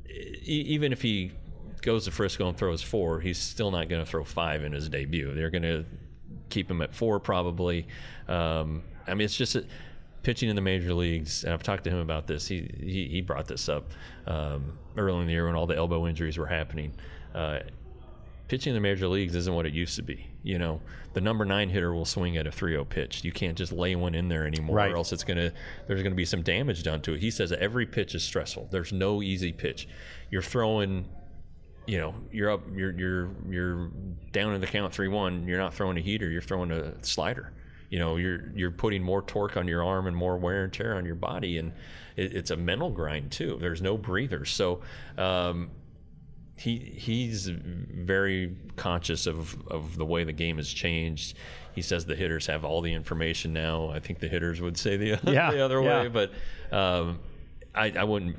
e- even if he goes to Frisco and throws four, he's still not going to throw five in his debut. They're going to keep him at four probably. Um, I mean, it's just a, pitching in the major leagues, and I've talked to him about this. He he, he brought this up um, early in the year when all the elbow injuries were happening. Uh, pitching in the major leagues isn't what it used to be. You know, the number nine hitter will swing at a three oh pitch. You can't just lay one in there anymore, right. or else it's gonna there's gonna be some damage done to it. He says every pitch is stressful. There's no easy pitch. You're throwing. You know, you're up, you're you're you're down in the count three one. You're not throwing a heater. You're throwing a slider. You know, you're you're putting more torque on your arm and more wear and tear on your body, and it, it's a mental grind too. There's no breathers, so um, he he's very conscious of of the way the game has changed. He says the hitters have all the information now. I think the hitters would say the, yeah, the other yeah. way, but um, I, I wouldn't.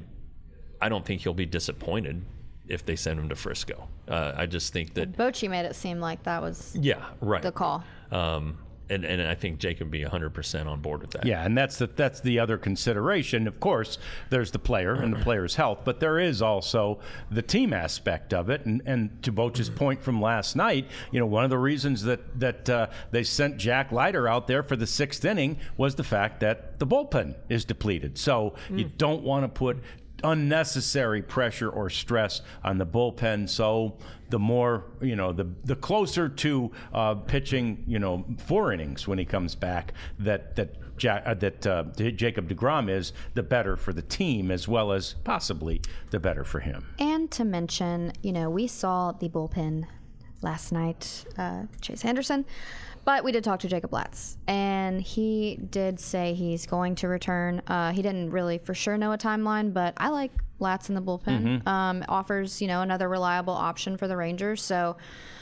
I don't think he'll be disappointed if they send him to Frisco. Uh, I just think that Bochy made it seem like that was yeah, right. the call. Um, and, and I think Jacob would be one hundred percent on board with that. Yeah, and that's the, that's the other consideration. Of course, there's the player and the player's health, but there is also the team aspect of it. And, and to Boch's point from last night, you know, one of the reasons that, that uh, they sent Jack Leiter out there for the sixth inning was the fact that the bullpen is depleted. So mm. you don't want to put unnecessary pressure or stress on the bullpen. So the more, you know, the the closer to uh, pitching, you know, four innings when he comes back, that that ja- uh, that uh, Jacob deGrom is, the better for the team, as well as possibly the better for him. And to mention, you know, we saw the bullpen last night, uh, Chase Anderson. But we did talk to Jacob Latz, and he did say he's going to return. Uh, he didn't really for sure know a timeline, but I like Latz in the bullpen. Mm-hmm. Um, offers, you know, another reliable option for the Rangers. So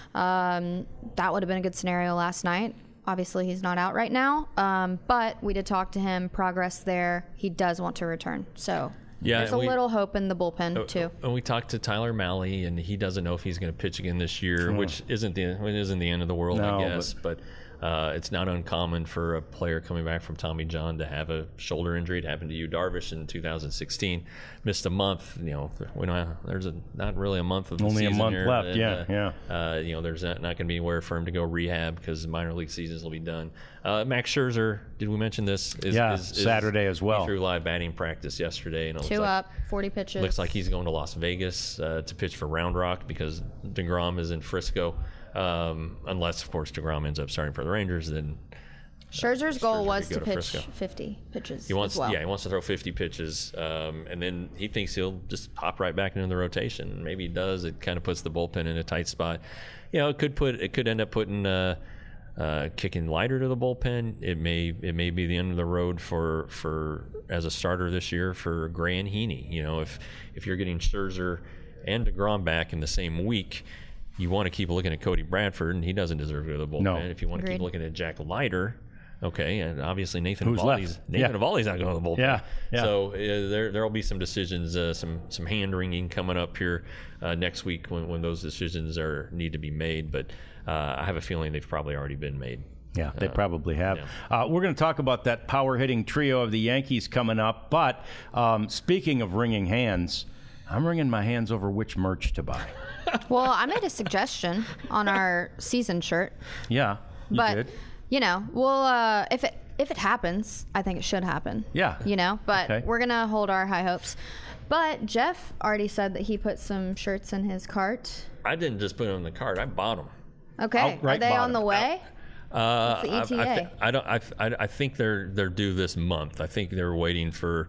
um, that would have been a good scenario last night. Obviously, he's not out right now, um, but we did talk to him. Progress there. He does want to return. So yeah, there's a we, little hope in the bullpen, too. And we talked to Tyler Malley, and he doesn't know if he's going to pitch again this year, mm. which isn't the it isn't the end of the world, no, I guess. But, but uh, it's not uncommon for a player coming back from Tommy John to have a shoulder injury. It happened to Yu Darvish in two thousand sixteen. Missed a month. You know, we don't, there's a, not really a month of the Only season a month here, left, and, yeah, uh, yeah. Uh, you know, there's not, not going to be anywhere for him to go rehab because the minor league seasons will be done. Uh, Max Scherzer, did we mention this? Is, yeah, is, is, Saturday as well. He threw live batting practice yesterday. And it Two looks up, like, forty pitches. Looks like he's going to Las Vegas uh, to pitch for Round Rock because deGrom is in Frisco. Um, unless, of course, deGrom ends up starting for the Rangers, then Scherzer's uh, goal Scherzer was could to go pitch Frisco. fifty pitches. He wants, as well. yeah, he wants to throw fifty pitches, um, and then he thinks he'll just pop right back into the rotation. Maybe he does. It kind of puts the bullpen in a tight spot. You know, it could put, it could end up putting. Uh, Uh, kicking lighter to the bullpen. It may it may be the end of the road for for as a starter this year for Gray and Heaney. You know, if if you're getting Scherzer and deGrom back in the same week, you want to keep looking at Cody Bradford, and he doesn't deserve to go to the bullpen. No. If you want to Agreed. keep looking at Jack Leiter, okay, and obviously Nathan Who's Eovaldi's left? Nathan Yeah. Eovaldi's not going to the bullpen. Yeah, yeah. So uh, there there will be some decisions, uh, some some hand wringing coming up here uh, next week when, when those decisions are need to be made. But uh, I have a feeling they've probably already been made. Yeah, they Uh, probably have. yeah. Uh, we're going to talk about that power-hitting trio of the Yankees coming up. But um, speaking of wringing hands, I'm wringing my hands over which merch to buy. Well, I made a suggestion on our season shirt, Yeah, you but did. you know, we'll uh, if it if it happens, I think it should happen. Yeah. You know, but Okay. we're gonna hold our high hopes. But Jeff already said that he put some shirts in his cart. I didn't just put them in the cart. I bought them. Okay, Outright are they on bottom. the way? Uh, What's the I, I, E T A? thi- I don't. I, I, I think they're they're due this month. I think they're waiting for.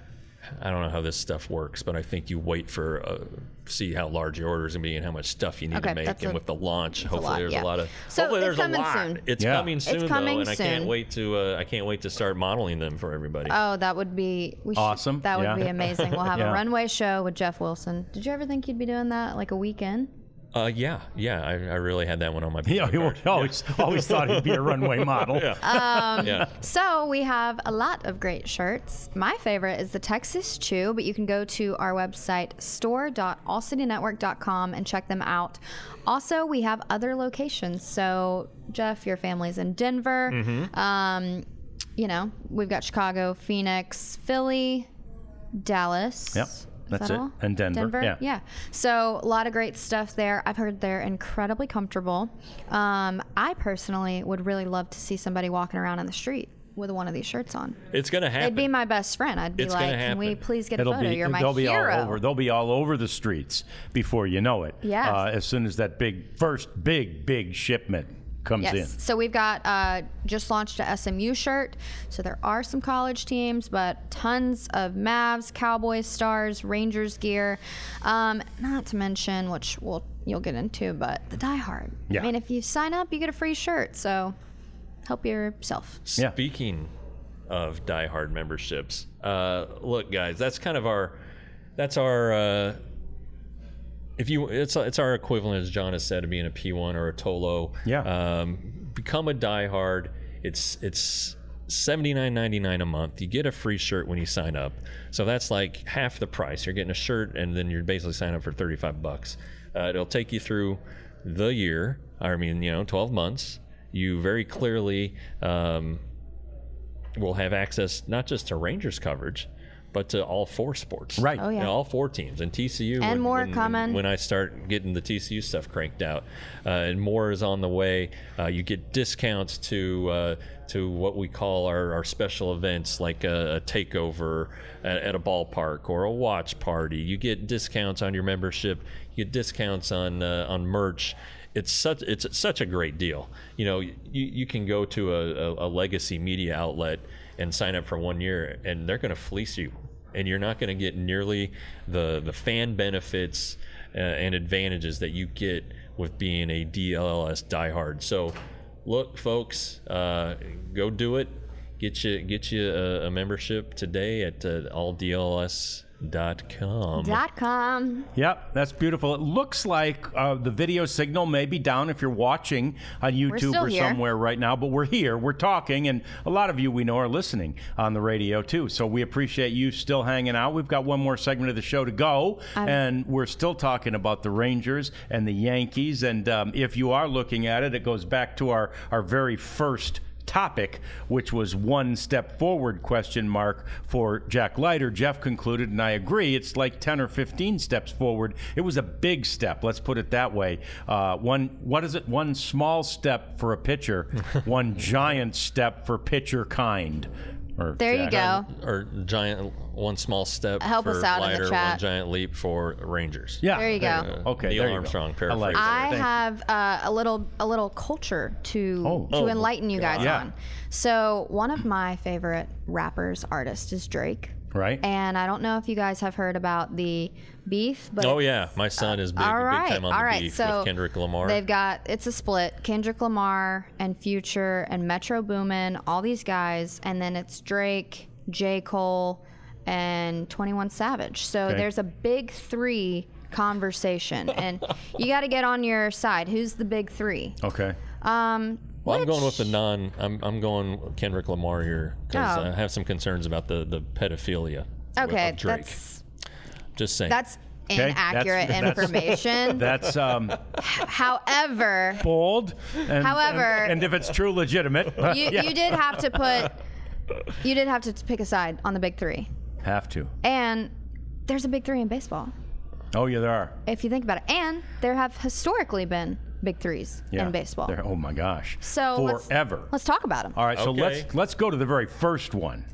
I don't know how this stuff works, but I think you wait for uh, see how large your order is gonna be and how much stuff you need Okay, to make. that's And a- with the launch, a hopefully lot, there's yeah. a lot of. So hopefully it's there's a coming lot. soon. It's Yeah. coming soon coming though, and I can't soon. wait to. Uh, I can't wait to start modeling them for everybody. Oh, that would be we should- Awesome, That would yeah. be amazing. We'll have Yeah. a runway show with Jeff Wilson. Did you ever think you'd be doing that like a weekend? Uh, yeah, yeah. I, I really had that one on my. Yeah, he card. always, always thought he'd be a runway model. Yeah. Um, yeah. So we have a lot of great shirts. My favorite is the Texas Chew, but you can go to our website, store dot all city network dot com, and check them out. Also, we have other locations. So, Jeff, your family's in Denver. Mm-hmm. Um, you know, we've got Chicago, Phoenix, Philly, Dallas. Yep. Is That's that it. all? And Denver, yeah. Yeah. So a lot of great stuff there. I've heard they're incredibly comfortable. Um, I personally would really love to see somebody walking around on the street with one of these shirts on. It's gonna happen. They'd be my best friend. I'd be It's like, gonna "Can we happen. please get a It'll photo? be, You're my they'll be hero." all over. They'll be all over the streets before you know it. Yes. Uh, as soon as that big first big big shipment comes Yes. in. So we've got uh, just launched a S M U shirt. So there are some college teams, but tons of Mavs, Cowboys, Stars, Rangers gear. Um, not to mention, which we'll you'll get into, but the Die Hard. Yeah. I mean, if you sign up, you get a free shirt. So help yourself. Yeah. Speaking of Die Hard memberships, uh, look, guys, that's kind of our, that's our, uh, if you, it's it's our equivalent, as John has said, of being a P one or a Tolo. Yeah. Um, become a Die Hard. It's it's seventy-nine ninety-nine a month. You get a free shirt when you sign up. So that's like half the price. You're getting a shirt, and then you're basically signing up for thirty-five bucks. Uh, it'll take you through the year. I mean, you know, twelve months. You very clearly um, will have access not just to Rangers coverage, but to all four sports. Right. Oh, yeah. You know, all four teams. And T C U. And when, more when, coming. When I start getting the T C U stuff cranked out, uh, and more is on the way. Uh, you get discounts to uh, to what we call our, our special events, like a, a takeover at, at a ballpark or a watch party. You get discounts on your membership. You get discounts on uh, on merch. It's such it's such a great deal. You know, you, you can go to a, a, a legacy media outlet and sign up for one year, and they're going to fleece you, and you're not going to get nearly the the fan benefits uh, and advantages that you get with being a D L L S diehard. So, look, folks, uh, go do it. Get you get you a, a membership today at uh, all D L L S dot com. Dot com. Yep, that's beautiful. It looks like uh, the video signal may be down if you're watching on YouTube still or here. somewhere right now, but we're here, we're talking, and a lot of you we know are listening on the radio too. So we appreciate you still hanging out. We've got one more segment of the show to go, I'm- and we're still talking about the Rangers and the Yankees. And um, if you are looking at it, it goes back to our, our very first topic, which was one step forward question mark for Jack Leiter. Jeff concluded, and I agree, it's like ten or fifteen steps forward. It was a big step, let's put it that way. Uh, one, what is it? One small step for a pitcher, one giant step for pitcher kind. Or There you Jack. go. Or giant, one small step Help for us out in the Leiter, chat. one giant leap for Rangers. Yeah, There you go. Uh, Okay, Neil there you go. Armstrong I like paraphrase. it. I Thank you. have uh, a little a little culture to Oh. to Oh, enlighten you guys yeah. on. So one of my favorite rappers, artists, is Drake. Right. And I don't know if you guys have heard about the beef, but Oh yeah, my son is big, all right, big time on all the right. beef So with Kendrick Lamar. they've got it's a split: Kendrick Lamar and Future and Metro Boomin, all these guys, and then it's Drake, J. Cole, and twenty-one Savage. So Okay. there's a big three conversation, and you got to get on your side. Who's the big three? Okay. Um, Well, I'm going which- with the non. I'm I'm going Kendrick Lamar here because Oh. I have some concerns about the the pedophilia. of- Okay, of Drake. that's Just saying. that's Okay, inaccurate that's- that's- information. That's um, However, bold. And, However- and, and if it's true, legitimate. you, yeah. you did have to put you did have to pick a side on the big three, have to. and there's a big three in baseball. Oh, yeah, there are. If you think about it, and there have historically been big threes Yeah. in baseball. There- oh my gosh. So let's- forever. Let's talk about them. All right, so Okay. let's let's go to the very first one.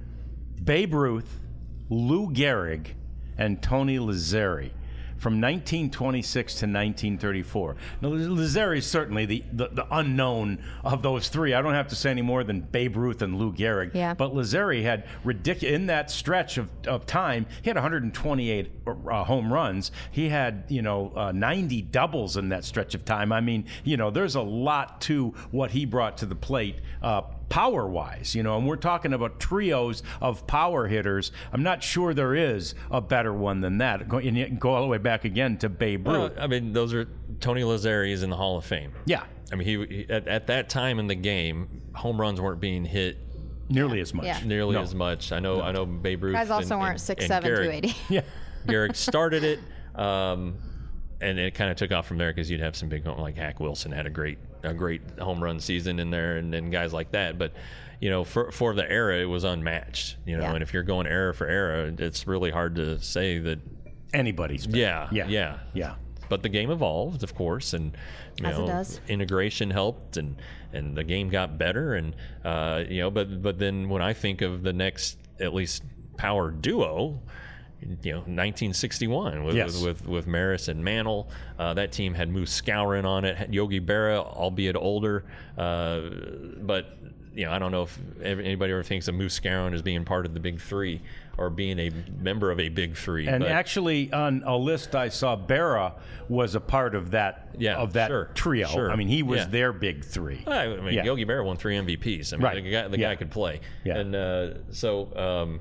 Babe Ruth, Lou Gehrig, and Tony Lazzeri from nineteen twenty-six to nineteen thirty-four. Now, Lazzeri is certainly the, the, the unknown of those three. I don't have to say any more than Babe Ruth and Lou Gehrig. Yeah. But Lazzeri had ridiculous in that stretch of, of time. He had one hundred twenty-eight uh, home runs. He had you know uh, ninety doubles in that stretch of time. I mean, you know, there's a lot to what he brought to the plate. Uh, Power-wise, you know, and we're talking about trios of power hitters. I'm not sure there is a better one than that. Go, and you can go all the way back again to Babe Ruth. Well, I mean, those are Tony Lazzeri is in the Hall of Fame. yeah, I mean, he, he at, at that time in the game, home runs weren't being hit nearly as much. Yeah. nearly No. as much. I know. I know Babe Ruth. Guys also and, weren't and, six and seven, Gehrig- two eighty. Yeah. Gehrig started it, um, and it kind of took off from there because you'd have some big home, like Hack Wilson had a great a great home run season in there, and, and guys like that. But you know, for for the era, it was unmatched. You know, Yeah. and if you're going era for era, it's really hard to say that. Anybody's. better. Yeah, Yeah. yeah, Yeah. But the game evolved, of course, and you As it know, does. integration helped, and and the game got better, and uh, you know, but but then when I think of the next at least power duo, you know, nineteen sixty-one with Yes. with, with with Maris and Mantle, uh, that team had Moose Skowron on it, had Yogi Berra, albeit older, uh, but you know, I don't know if ev- anybody ever thinks of Moose Skowron as being part of the Big Three or being a member of a Big Three. And but, actually, on a list I saw, Berra was a part of that Yeah, of that sure, trio. sure. I mean, he was Yeah. their big three. I mean, Yeah. Yogi Berra won three M V Ps. I mean, Right. the guy, the Yeah. guy could play. Yeah. And uh, so, um,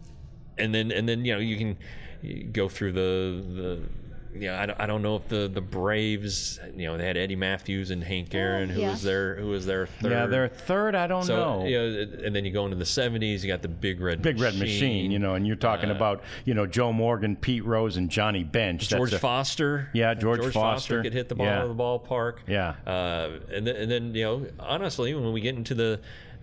and then and then you know you can you go through the the. Yeah, I don't, I don't know if the, the Braves, you know, they had Eddie Matthews and Hank Aaron, who yeah. was their who was their third. Yeah, their third, I don't so know. you know, and then you go into the seventies, you got the Big Red Big Red Machine, you know, and you're talking Uh, about, you know, Joe Morgan, Pete Rose, and Johnny Bench. George That's a- Foster. Yeah, George Foster. could hit the ball Yeah. out of the ballpark. Yeah. Uh, and then, and then, you know, honestly, when we get into the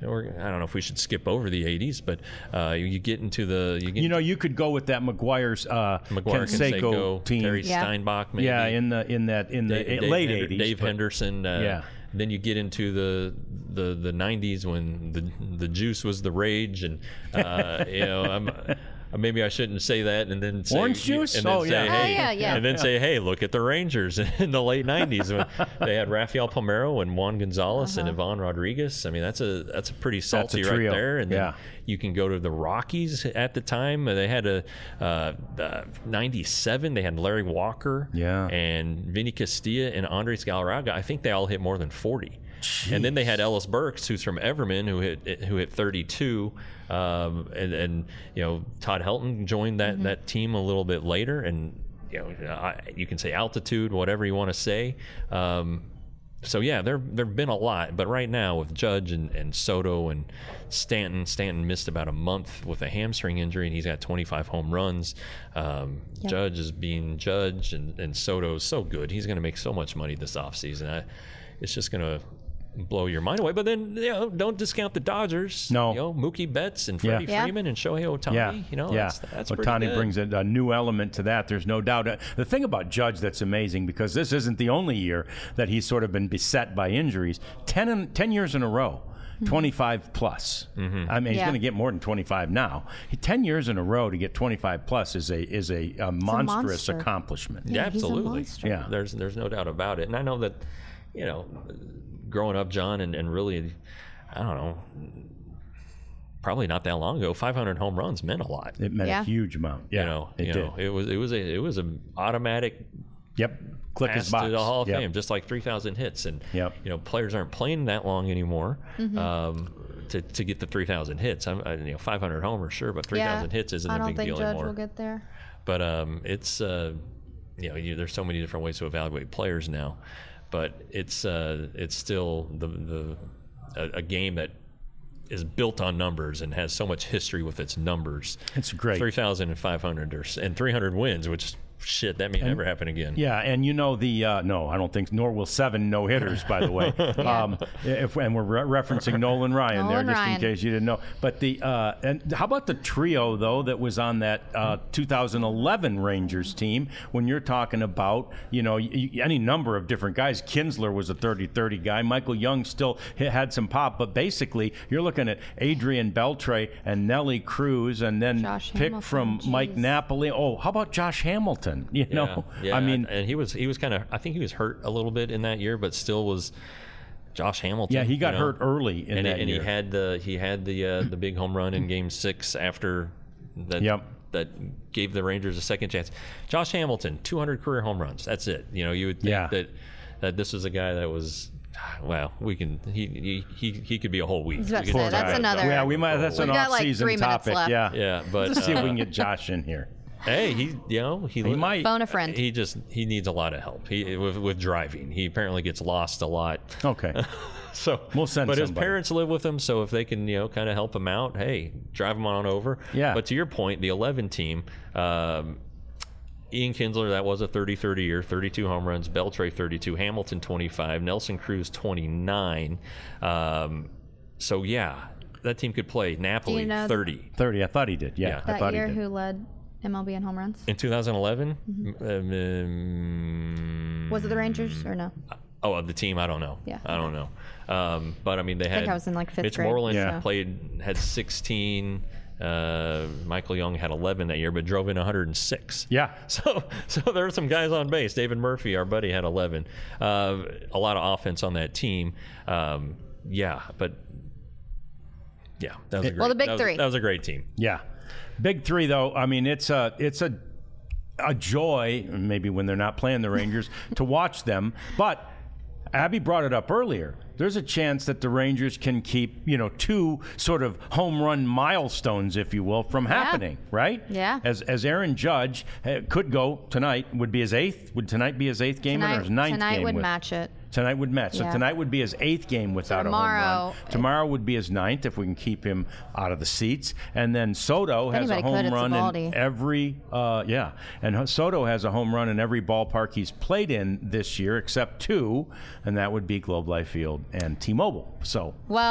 or I don't know if we should skip over the eighties, but uh, you, you get into the you get You know, you could go with that McGuire's uh, McGuire, Canseco Canseco, team. Terry Yeah. Steinbach, maybe. Yeah, in the in that in the Dave, Dave late Hender- eighties. Dave but- Henderson. Uh, Yeah. Then you get into the the the nineties when the the juice was the rage, and uh, you know I'm. Maybe I shouldn't say that, and then say, Orange juice? and then Oh, say, yeah. hey, Oh, yeah, yeah. and then say, hey, look at the Rangers in the late nineties when they had Rafael Palmeiro and Juan Gonzalez and Ivan Rodriguez. I mean, that's a that's a pretty salty right trio. there. And then Yeah. you can go to the Rockies at the time. They had a uh, uh, ninety-seven. They had Larry Walker, Yeah. and Vinny Castilla and Andres Galarraga. I think they all hit more than forty. And then they had Ellis Burks, who's from Everman, who hit who hit thirty-two, um, and and you know Todd Helton joined that Mm-hmm. that team a little bit later, and you know I, you can say altitude, whatever you want to say. Um, so yeah, there there've been a lot, but right now with Judge and, and Soto and Stanton, Stanton missed about a month with a hamstring injury, and he's got twenty-five home runs. Um, Yep. Judge is being Judge, and and Soto's so good. He's going to make so much money this offseason. I, it's just going to blow your mind away. But then, you know, don't discount the Dodgers. No. You know, Mookie Betts and Yeah. Freddie Yeah. Freeman and Shohei Ohtani. Yeah, You know, yeah. that's, that's pretty Ohtani good. brings a, a new element to that. There's no doubt. Uh, The thing about Judge that's amazing, because this isn't the only year that he's sort of been beset by injuries. Ten, in, ten years in a row. twenty-five plus. Mm-hmm. I mean, he's Yeah. going to get more than twenty-five now. He, Ten years in a row to get twenty-five plus is a is a, a monstrous monster. accomplishment. Yeah, he's a absolutely. monster. Yeah. There's there's no doubt about it. And I know that, you know, growing up, John, and, and really, I don't know, probably not that long ago, five hundred home runs meant a lot. It meant Yeah. a huge amount. Yeah, you know, it you did. know, it was it was a it was an automatic Yep. Click pass his box. to the Hall of Yep. Fame, just like three thousand hits. And Yep. you know, players aren't playing that long anymore Mm-hmm. um, to to get the three thousand hits. I'm, I, you know, five hundred homers, sure, but three thousand Yeah. hits isn't I a don't big think deal Judge anymore. will get there. But um, it's uh, you know, you, there's so many different ways to evaluate players now, but it's uh, it's still the the a, a game that is built on numbers and has so much history with its numbers. It's great. three thousand five hundred or, and three hundred wins, which shit that may never happen again. Yeah, and you know the uh, no, I don't think nor will seven no hitters. By the way, um, if, and we're re- referencing Nolan Ryan Nolan there, just Ryan. in case you didn't know. But the uh, and how about the trio though that was on that uh, two thousand eleven Rangers team? When you're talking about you know y- y- any number of different guys, Kinsler was a thirty thirty guy. Michael Young still h- had some pop, but basically you're looking at Adrian Beltre and Nelly Cruz, and then Josh pick Hamilton, from Mike geez. Napoli. Oh, how about Josh Hamilton? You Yeah, know, yeah, I mean. and he was he was kind of I think he was hurt a little bit in that year, but still was Josh Hamilton. Yeah, he got you know? hurt early in and, that and year. he had the he had the uh, the big home run in Game Six after that. Yep. That gave the Rangers a second chance. Josh Hamilton, two hundred career home runs. That's it. You know, you would think Yeah. that that this was a guy that was. Well, we can. He he he, he could be a whole week. I was about We to could say, talk that's about another- Yeah, we might. That's We've an got, like, off-season three minutes topic. left. Yeah, Yeah, but Let's see if uh, we can get Josh in here. Hey, he you know he, He might. Phone a friend. He just he needs a lot of help. He with with driving. He apparently gets lost a lot. Okay. So We'll send But his somebody. parents live with him, so if they can you know kind of help him out, hey, drive him on over. Yeah. But to your point, the eleven team. Um, Ian Kinsler, that was a thirty thirty year, thirty-two home runs. Beltre, thirty-two. Hamilton, twenty-five. Nelson Cruz, twenty-nine. Um, so, yeah, that team could play. Napoli, you know- thirty. thirty. I thought he did. Yeah, Yeah. I That thought year, he did. who led M L B in home runs? In two thousand eleven? Mm-hmm. Um, Was it the Rangers or no? Oh, of the team, I don't know. Yeah. I don't know. Um, but I mean, they had. think I was in, like, fifth Mitch grade, Moreland Yeah. played had sixteen. Uh, Michael Young had eleven that year, but drove in one hundred six. Yeah. So, so there were some guys on base. David Murphy, our buddy, had eleven. Uh, a lot of offense on that team. Um, yeah, but yeah, that was a great. Well, the big that was- three. That was a great team. Yeah. Big three, though. I mean, it's a it's a a joy, maybe when they're not playing the Rangers, to watch them. But Abby brought it up earlier. There's a chance that the Rangers can keep, you know, two sort of home run milestones, if you will, from happening, right? Yeah. As as Aaron Judge uh, could go tonight, would be his eighth. Would tonight be his eighth game in, or Tonight, his ninth tonight game? would with, match it. Tonight would match. So Yeah. tonight would be his eighth game without a home Tomorrow- run. Tomorrow would be his ninth if we can keep him out of the seats. And then Soto has a anybody home could, it's run Eovaldi. in every uh, yeah. And Soto has a home run in every ballpark he's played in this year, except two, and that would be Globe Life Field and T-Mobile. So Well,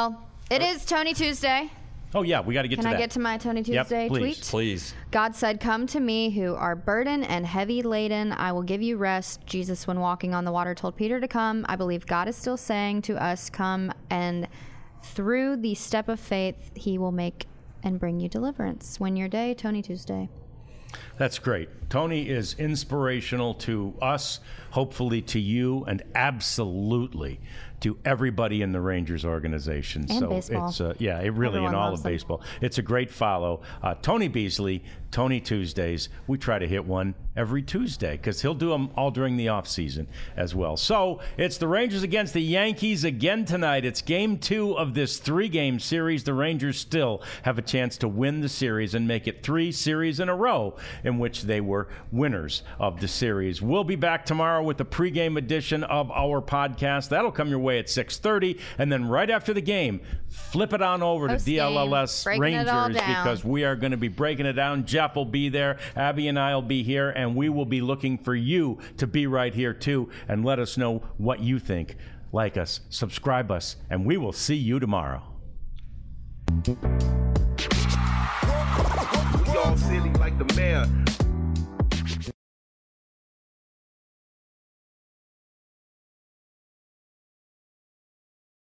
It is Tony Tuesday. Oh, yeah, we got to get Can to I that. get to my Tony Yep, Tuesday please. tweet? Please. God said, "Come to me who are burdened and heavy laden. I will give you rest." Jesus, when walking on the water, told Peter to come. I believe God is still saying to us, come, and through the step of faith, he will make and bring you deliverance. Win your day, Tony Tuesday. That's great. Tony is inspirational to us, hopefully to you, and absolutely to everybody in the Rangers organization. And so baseball. it's uh, yeah, it really Everyone in all loves of them. baseball. It's a great follow. Uh, Tony Beasley, Tony Tuesdays. We try to hit one every Tuesday because he'll do them all during the off season as well. So it's the Rangers against the Yankees again tonight. It's game two of this three-game series. The Rangers still have a chance to win the series and make it three series in a row in which they were winners of the series. We'll be back tomorrow with the pregame edition of our podcast. That'll come your way at six thirty, and then right after the game, flip it on over Post to D L L S game, breaking it all Rangers down. because we are going to be breaking it down. Jeff will be there, Abby and I will be here, and we will be looking for you to be right here too and let us know what you think. Like us, subscribe us, and we will see you tomorrow. We all silly like the mayor.